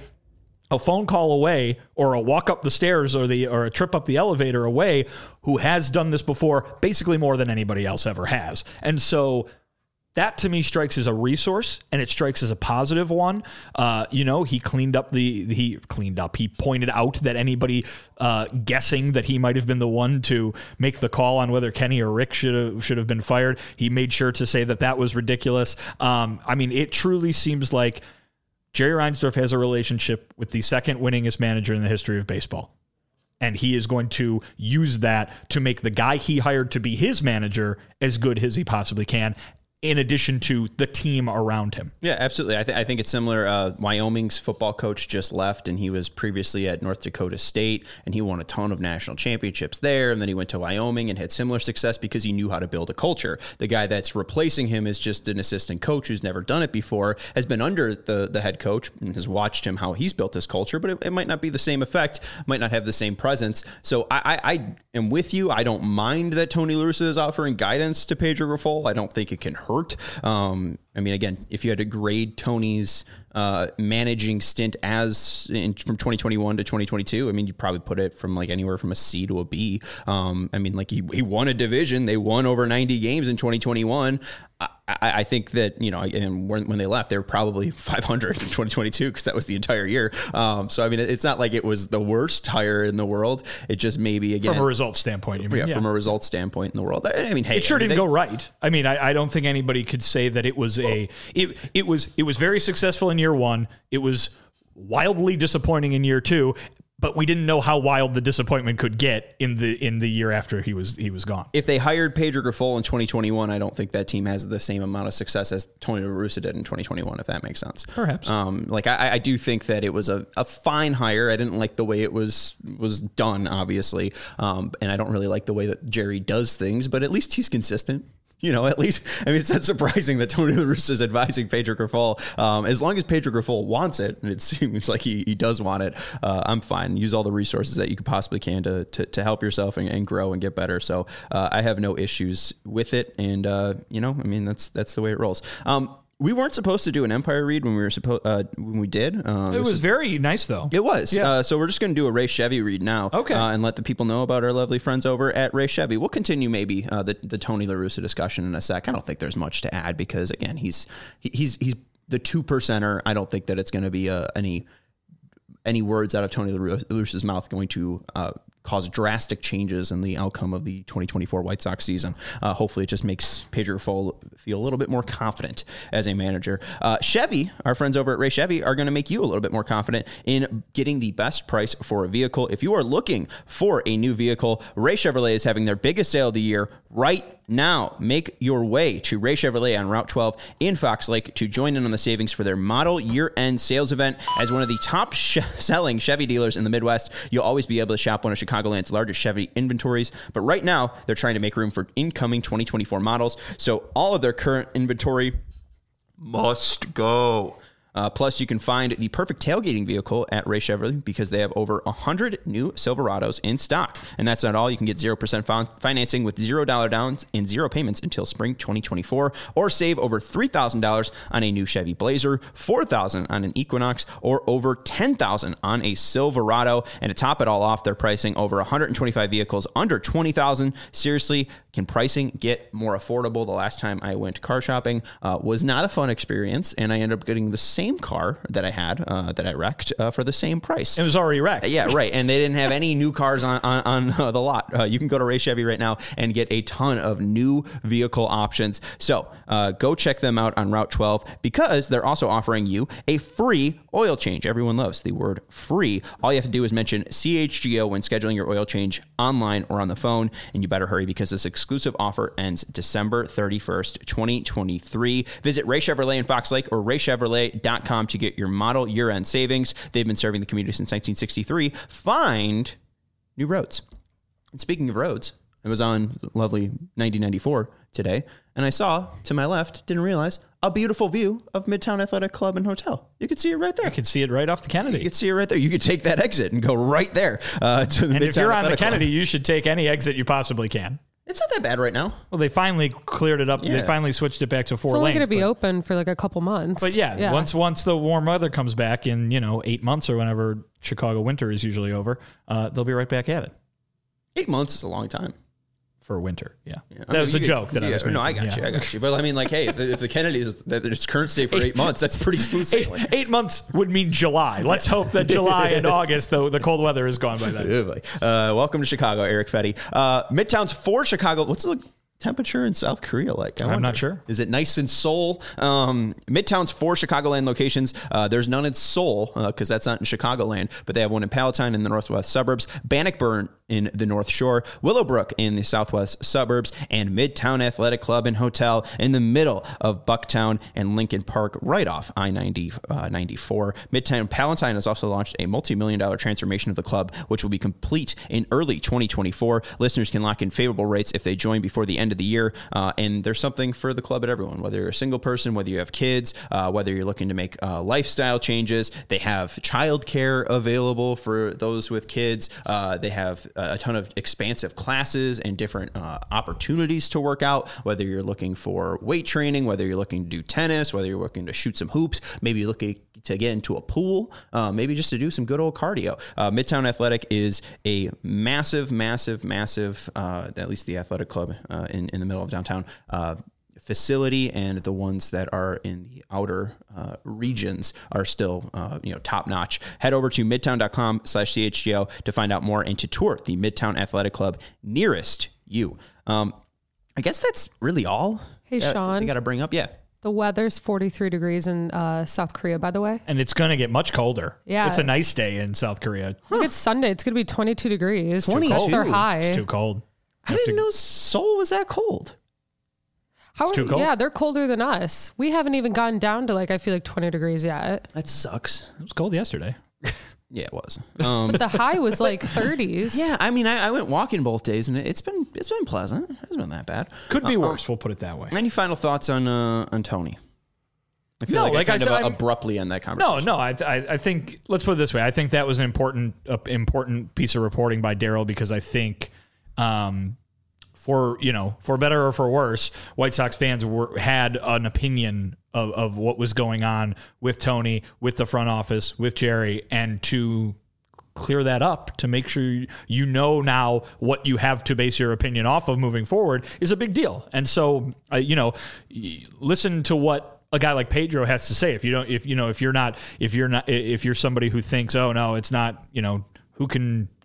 a phone call away, or a walk up the stairs, or the or a trip up the elevator away, who has done this before, basically more than anybody else ever has. And so that to me strikes as a resource, and it strikes as a positive one. Uh, you know, he cleaned up the he cleaned up. He pointed out that anybody uh, guessing that he might have been the one to make the call on whether Kenny or Rick should have should have been fired, he made sure to say that that was ridiculous. Um, I mean, it truly seems like Jerry Reinsdorf has a relationship with the second winningest manager in the history of baseball. And he is going to use that to make the guy he hired to be his manager as good as he possibly can, in addition to the team around him. Yeah, absolutely. I, th- I think it's similar. Uh, Wyoming's football coach just left, and he was previously at North Dakota State, and he won a ton of national championships there, and then he went to Wyoming and had similar success because he knew how to build a culture. The guy that's replacing him is just an assistant coach who's never done it before, has been under the, the head coach, and has watched him how he's built his culture, but it, it might not be the same effect, might not have the same presence. So I, I, I am with you. I don't mind that Tony La Russa is offering guidance to Pedro Grifol. I don't think it can hurt. Um, I mean, again, if you had to grade Tony's uh, managing stint as in, from twenty twenty-one to twenty twenty-two, I mean, you probably put it from like anywhere from a C to a B. Um, I mean, like he, he won a division. They won over ninety games in twenty twenty-one. I, I think that, you know, and when, when they left, they were probably five hundred in twenty twenty-two because that was the entire year. Um, so, I mean, it's not like it was the worst hire in the world. It just maybe, again, from a results standpoint, you mean? Yeah, yeah. from a results standpoint in the world. I, I mean, hey, it sure I mean, didn't they, go right. I mean, I, I don't think anybody could say that it was a, it, it was, it was very successful in year one. It was wildly disappointing in year two, but we didn't know how wild the disappointment could get in the in the year after he was he was gone. If they hired Pedro Grifol in twenty twenty-one, I don't think that team has the same amount of success as Tony La Russa did in twenty twenty-one, if that makes sense. Perhaps. Um, like I, I do think that it was a, a fine hire. I didn't like the way it was was done, obviously, um, and I don't really like the way that Jerry does things. But at least he's consistent. You know, at least, I mean, it's not surprising that Tony La Russa is advising Pedro Grifol. Um, as long as Pedro Grifol wants it, and it seems like he, he does want it, uh, I'm fine. Use all the resources that you could possibly can to to, to help yourself and, and grow and get better. So uh, I have no issues with it. And, uh, you know, I mean, that's that's the way it rolls. Um, We weren't supposed to do an Empire read when we were supposed uh, when we did. Uh, it was is, very nice, though. It was. Yeah. Uh, so we're just going to do a Ray Chevy read now. Okay. Uh, and let the people know about our lovely friends over at Ray Chevy. We'll continue maybe uh, the the Tony La Russa discussion in a sec. I don't think there's much to add because again, he's he, he's he's the two percenter. I don't think that it's going to be uh, any any words out of Tony La Russa's mouth going to Uh, cause drastic changes in the outcome of the twenty twenty-four White Sox season. Uh, hopefully it just makes Pedro Fole feel a little bit more confident as a manager. Uh, Chevy, our friends over at Ray Chevy, are going to make you a little bit more confident in getting the best price for a vehicle. If you are looking for a new vehicle, Ray Chevrolet is having their biggest sale of the year right now. Make your way to Ray Chevrolet on Route twelve in Fox Lake to join in on the savings for their model year-end sales event. As one of the top sh- selling Chevy dealers in the Midwest, you'll always be able to shop one of Chicagoland's largest Chevy inventories. But right now, they're trying to make room for incoming twenty twenty-four models, so all of their current inventory must go. Uh, plus, you can find the perfect tailgating vehicle at Ray Chevrolet because they have over one hundred new Silverados in stock. And that's not all. You can get zero percent financing with zero dollars downs and zero payments until spring twenty twenty-four, or save over three thousand dollars on a new Chevy Blazer, four thousand dollars on an Equinox, or over ten thousand dollars on a Silverado. And to top it all off, they're pricing over one hundred twenty-five vehicles under twenty thousand dollars. Seriously, can pricing get more affordable? The last time I went car shopping uh, was not a fun experience, and I ended up getting the same car that I had uh, that I wrecked uh, for the same price. It was already wrecked. Yeah, right. And they didn't have any new cars on on, on uh, the lot. Uh, you can go to Ray Chevy right now and get a ton of new vehicle options. So uh, go check them out on Route twelve because they're also offering you a free oil change. Everyone loves the word free. All you have to do is mention C H G O when scheduling your oil change online or on the phone, and you better hurry because this exclusive offer ends December thirty-first, twenty twenty-three. Visit Ray Chevrolet in Fox Lake or ray chevrolet dot com to get your model year-end savings. They've been serving the community since nineteen sixty-three. Find new roads. And speaking of roads, I was on lovely ninety ninety-four today, and I saw to my left, didn't realize, a beautiful view of Midtown Athletic Club and Hotel. You could see it right there. You could see it right off the Kennedy. You could see it right there. You could take that exit and go right there uh, to the and Midtown if you're on the Athletic Kennedy, Club. you should take any exit you possibly can. It's not that bad right now. Well, they finally cleared it up. Yeah. They finally switched it back to four It's only lanes. going to be but, open for like a couple months. But yeah, yeah, once once the warm weather comes back in, you know, eight months or whenever Chicago winter is usually over, uh, they'll be right back at it. Eight months is a long time. For winter, yeah. Yeah. That I mean, was a you joke could, that yeah, I was making. No, I got yeah. you. I got you. But I mean, like, hey, if, if the Kennedy is that its current stay for eight, eight months, that's pretty smooth sailing. Eight, eight months would mean July. Let's hope that July and August, the, the cold weather is gone by then. Uh, welcome to Chicago, Eric Fetty. Uh, Midtown's for Chicago. What's the temperature in South Korea like? I I'm wonder. not sure. Is it nice in Seoul? Um, Midtown's four Chicagoland locations. Uh, there's none in Seoul because uh, that's not in Chicagoland, but they have one in Palatine in the northwest suburbs, Bannockburn in the North Shore, Willowbrook in the southwest suburbs, and Midtown Athletic Club and Hotel in the middle of Bucktown and Lincoln Park, right off I ninety, uh, ninety-four. Midtown Palatine has also launched a multi-million dollar transformation of the club, which will be complete in early twenty twenty-four. Listeners can lock in favorable rates if they join before the end of the year, uh, and there's something for the club at everyone, whether you're a single person, whether you have kids, uh, whether you're looking to make uh, lifestyle changes. They have childcare available for those with kids. Uh, they have a ton of expansive classes and different uh, opportunities to work out, whether you're looking for weight training, whether you're looking to do tennis, whether you're looking to shoot some hoops, maybe you're looking to get into a pool, uh, maybe just to do some good old cardio. Uh, Midtown Athletic is a massive, massive, massive, uh, at least the athletic club uh, in, in the middle of downtown, uh, facility, and the ones that are in the outer uh, regions are still uh, you know top notch. Head over to midtown.com slash CHGO to find out more and to tour the Midtown Athletic Club nearest you. Um, I guess that's really all. Hey, that Sean. I got to bring up. Yeah. The weather's forty-three degrees in uh, South Korea, by the way. And it's going to get much colder. Yeah. It's a nice day in South Korea. Huh. Look, it's Sunday. It's going to be twenty-two degrees. twenty-two? That's their high. It's too cold. I didn't know Seoul was that cold. How It's are, too cold? Yeah, they're colder than us. We haven't even gotten down to like, I feel like twenty degrees yet. That sucks. It was cold yesterday. Yeah, it was. Um, But the high was like thirties. yeah, I mean, I, I went walking both days, and it's been it's been pleasant. It hasn't been that bad. Could be Uh, worse. We'll put it that way. Any final thoughts on uh, on Tony? I feel No, like, like I I kind said, of I'm- abruptly end that No, conversation. no. I, I, I think let's put it this way. I think that was an important, uh, important piece of reporting by Daryl because I think, um, for you know, for better or for worse, White Sox fans were had an opinion of of what was going on with Tony, with the front office, with Jerry, and to clear that up to make sure you know now what you have to base your opinion off of moving forward is a big deal. And so, uh, you know, listen to what a guy like Pedro has to say. If you don't, if you know, if you're not, if you're not, if you're somebody who thinks, oh no, it's not, you know, who can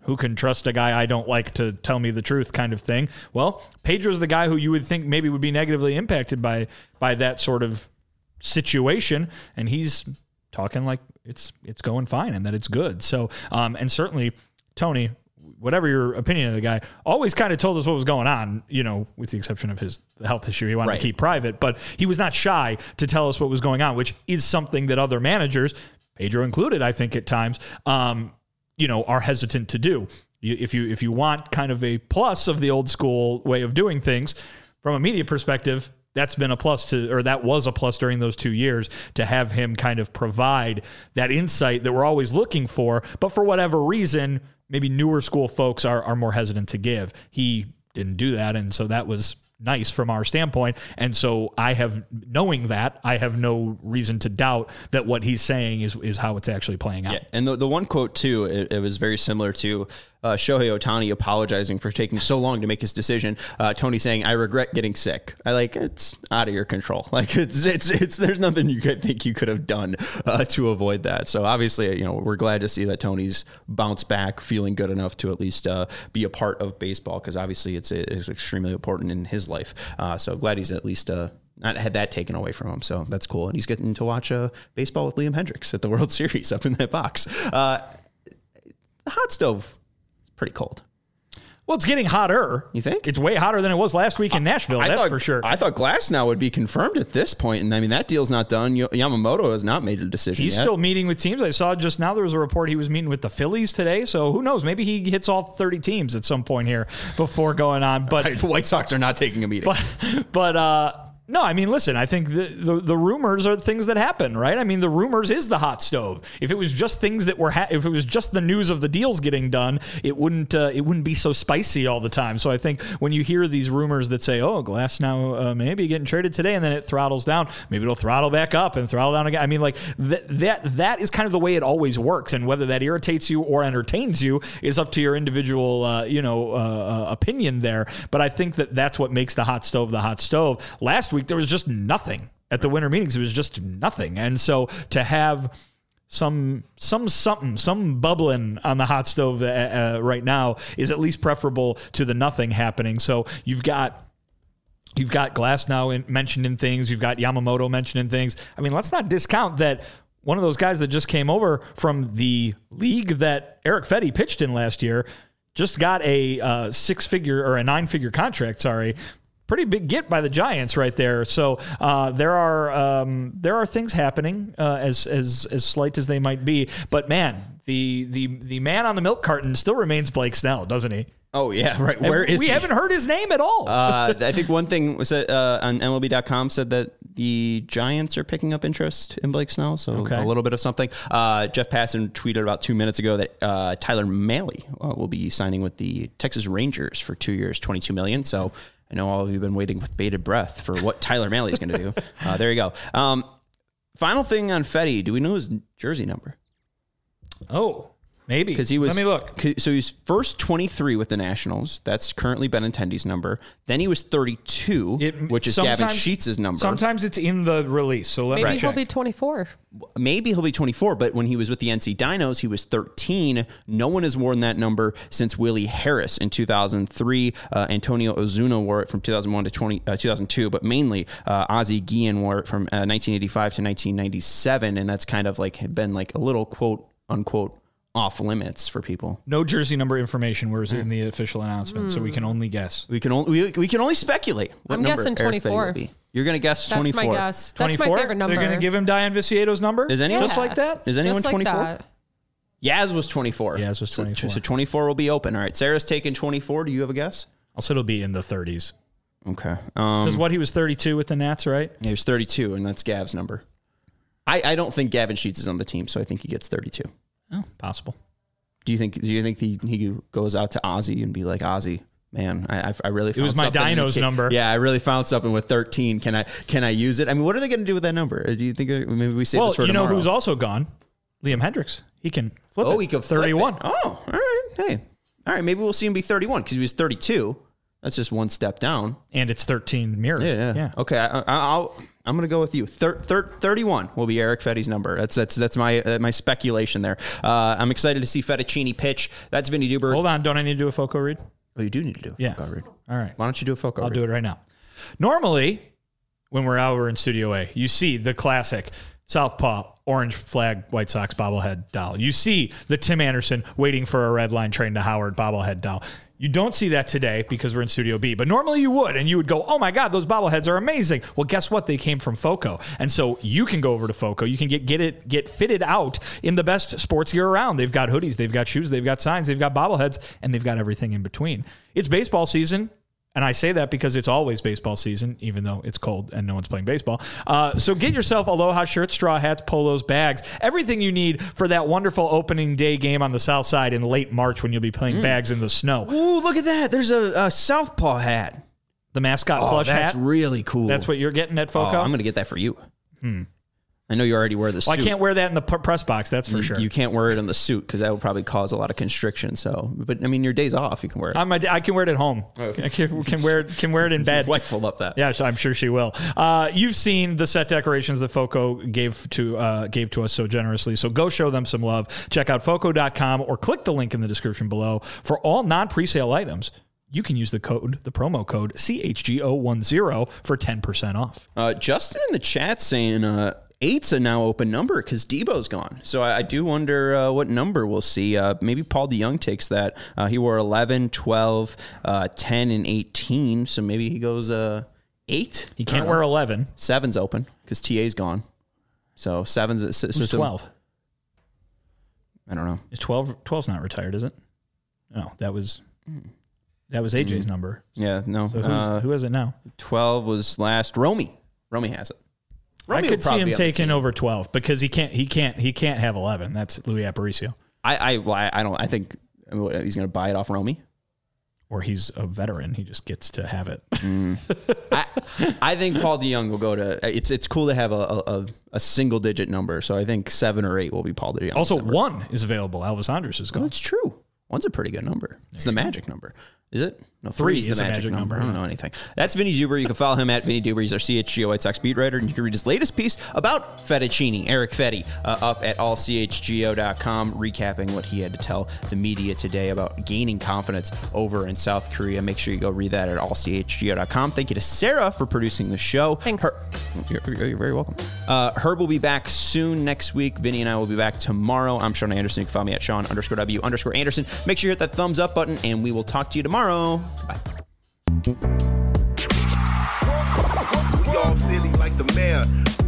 who can trust a guy I don't like to tell me the truth kind of thing. Well, Pedro's the guy who you would think maybe would be negatively impacted by by that sort of situation, and he's talking like it's it's going fine and that it's good. So, um, and certainly Tony, whatever your opinion of the guy, always kind of told us what was going on, you know, with the exception of his health issue he wanted right. to keep private, but he was not shy to tell us what was going on, which is something that other managers, Pedro included, I think at times, um, you know, are hesitant to do. You, if you if you want kind of a plus of the old school way of doing things from a media perspective, that's been a plus to, or that was a plus during those two years to have him kind of provide that insight that we're always looking for. But for whatever reason, maybe newer school folks are, are more hesitant to give. He didn't do that. And so that was nice from our standpoint. And so I have, knowing that, I have no reason to doubt that what he's saying is, is how it's actually playing out. Yeah. And the, the one quote too, it, it was very similar to Uh, Shohei Ohtani apologizing for taking so long to make his decision. Uh, Tony saying, "I regret getting sick." I like it's out of your control. Like it's it's it's there's nothing you could think you could have done uh, to avoid that. So obviously, you know, we're glad to see that Tony's bounced back, feeling good enough to at least uh, be a part of baseball, because obviously it's it's extremely important in his life. Uh, so glad he's at least uh, not had that taken away from him. So that's cool, and he's getting to watch uh, baseball with Liam Hendricks at the World Series up in that box. Uh, the hot stove. Pretty cold. Well, it's getting hotter. You think? It's way hotter than it was last week in Nashville. I, I that's thought, for sure. I thought Glasnow would be confirmed at this point, and I mean that deal's not done. Yamamoto has not made a decision. He's yet. still meeting with teams. I saw just now there was a report he was meeting with the Phillies today. So who knows? Maybe he hits all thirty teams at some point here before going on. But right, the White Sox are not taking a meeting. But but uh, no, I mean, listen, I think the, the the rumors are things that happen, right? I mean, the rumors is the hot stove. If it was just things that were, ha- if it was just the news of the deals getting done, it wouldn't uh, it wouldn't be so spicy all the time. So I think when you hear these rumors that say, "Oh, Glasnow uh, maybe getting traded today," and then it throttles down, maybe it'll throttle back up and throttle down again. I mean, like th- that that is kind of the way it always works, and whether that irritates you or entertains you is up to your individual, uh, you know, uh, uh, opinion there. But I think that that's what makes the hot stove the hot stove. Last week there was just nothing at the winter meetings. It was just nothing. And so to have some some something, some bubbling on the hot stove uh, uh, right now is at least preferable to the nothing happening. So you've got you've got Glasnow in, mentioned in things. You've got Yamamoto mentioned in things. I mean, let's not discount that one of those guys that just came over from the league that Eric Fedde pitched in last year just got a uh, six-figure or a nine-figure contract, sorry, pretty big get by the Giants right there. So uh, there are um, there are things happening uh, as as as slight as they might be. But man, the the the man on the milk carton still remains Blake Snell, doesn't he? Oh yeah, right. Where and is we he? haven't heard his name at all. uh, I think one thing was that, uh, on M L B dot com said that the Giants are picking up interest in Blake Snell, so okay. a little bit of something. Uh, Jeff Passan tweeted about two minutes ago that uh, Tyler Mahle uh, will be signing with the Texas Rangers for two years, twenty-two million dollars. So I know all of you have been waiting with bated breath for what Tyler Mahle is going to do. Uh, there you go. Um, final thing on Fedde. Do we know his jersey number? Oh, maybe. Because he was. Let me look. So he's first twenty-three with the Nationals. That's currently Benintendi's number. Then he was thirty-two, it, which is Gavin Sheets' number. Sometimes it's in the release. So let maybe me he'll check. be twenty-four. Maybe he'll be twenty-four, but when he was with the N C Dinos, he was thirteen. No one has worn that number since Willie Harris in two thousand three. Uh, Antonio Ozuna wore it from two thousand one to twenty, uh, two thousand two, but mainly uh, Ozzie Guillen wore it from uh, nineteen eighty-five to nineteen ninety-seven, and that's kind of like been like a little quote unquote off limits for people. No jersey number information was mm. in the official announcement, mm. so we can only guess. We can only we, we can only speculate. What I'm guessing twenty-four. You're going to guess That's twenty-four. That's my guess. That's twenty-four? My favorite number. They're going to give him Diane Vicieto's number? Is anyone yeah. just like that? Is anyone just twenty-four? Like that. Yaz was twenty-four. Yaz was twenty-four. So, so twenty-four will be open. All right. Sarah's taking twenty-four. Do you have a guess? I'll say it'll be in the thirties. Okay. Because um, what, he was thirty-two with the Nats, right? Yeah, he was thirty-two, and that's Gav's number. I, I don't think Gavin Sheets is on the team, so I think he gets thirty-two. Oh, possible. Do you think? Do you think he, he goes out to Ozzy and be like, Ozzy, man, I I really found it was my Dinos number. Yeah, I really found something with thirteen. Can I can I use it? I mean, what are they going to do with that number? Do you think maybe we save well, this for you tomorrow? know who's also gone? Liam Hendricks. He can flip oh, it. he can thirty-one. Oh, all right. Hey, all right. Maybe we'll see him be thirty-one because he was thirty-two. That's just one step down. And it's thirteen mirror. Yeah, yeah. yeah. Okay, I, I, I'll. I'm going to go with you. Thir- thir- thirty-one will be Erick Fedde's number. That's that's that's my uh, my speculation there. Uh, I'm excited to see Fettuccini pitch. That's Vinny Duber. Hold on, don't I need to do a Foco read? Oh, you do need to do a yeah. Foco read. All right. Why don't you do a Foco I'll read? do it right now. Normally, when we're out, we're in Studio A, you see the classic Southpaw orange flag White Sox bobblehead doll. You see the Tim Anderson waiting for a red line train to Howard bobblehead doll. You don't see that today because we're in Studio B, but normally you would, and you would go, oh my God, those bobbleheads are amazing. Well, guess what? They came from Foco. And so you can go over to Foco. You can get get it get fitted out in the best sports gear around. They've got hoodies, they've got shoes, they've got signs, they've got bobbleheads, and they've got everything in between. It's baseball season. And I say that because it's always baseball season, even though it's cold and no one's playing baseball. Uh, so get yourself Aloha shirts, straw hats, polos, bags, everything you need for that wonderful opening day game on the South Side in late March when you'll be playing mm. bags in the snow. Ooh, look at that. There's a, a Southpaw hat. The mascot oh, plush that's hat. That's really cool. That's what you're getting at Foco? Oh, I'm going to get that for you. Hmm. I know you already wear the suit. Well, I can't wear that in the p- press box, that's for you, sure. You can't wear it in the suit because that would probably cause a lot of constriction. So, but I mean, your day's off, you can wear it. I'm a, I can wear it at home. Oh. I can, can wear it. Can wear it in bed. Your wife will love that. Yeah, I'm sure she will. Uh, you've seen the set decorations that Foco gave to uh, gave to us so generously. So go show them some love. Check out foco dot com or click the link in the description below for all non-presale items. You can use the code, the promo code C H G O ten for ten percent off. Uh, Justin in the chat saying. Uh, Eight's a now open number because Debo's gone. So I, I do wonder uh, what number we'll see. Uh, maybe Paul DeYoung takes that. Uh, he wore eleven, twelve, uh, ten, and eighteen. So maybe he goes uh, eight. He can't wear eleven. Seven's open because T A's gone. So seven's so, Who's so, twelve. I don't know. Is twelve? twelve's not retired, is it? No, that was that was A J's mm. number. Yeah, no. So who's, uh, who is it now? twelve was last. Romy. Romy has it. Romy I could see him taking over twelve because he can't. He can't. He can't have eleven. That's Louis Aparicio. I. I. Well, I don't. I think he's going to buy it off Romy, or he's a veteran. He just gets to have it. Mm. I. I think Paul DeYoung will go to. It's. It's cool to have a a, a single digit number. So I think seven or eight will be Paul DeYoung. Also, one is available. Elvis Andrus is gone. Oh, that's true. One's a pretty good number. There it's the go. magic number. Is it? No, three is the is magic, magic number. number. I don't know anything. That's Vinny Duber. You can follow him at Vinny Duber. He's our C H G O White Sox beat writer, and you can read his latest piece about Fettuccini, Erick Fedde, uh, up at all c h g o dot com, recapping what he had to tell the media today about gaining confidence over in South Korea. Make sure you go read that at all c h g o dot com. Thank you to Sarah for producing the show. Thanks. Her- you're, you're very welcome. Uh, Herb will be back soon next week. Vinny and I will be back tomorrow. I'm Sean Anderson. You can follow me at Sean underscore W underscore Anderson. Make sure you hit that thumbs up button, and we will talk to you tomorrow. Bye. We all silly like the mayor.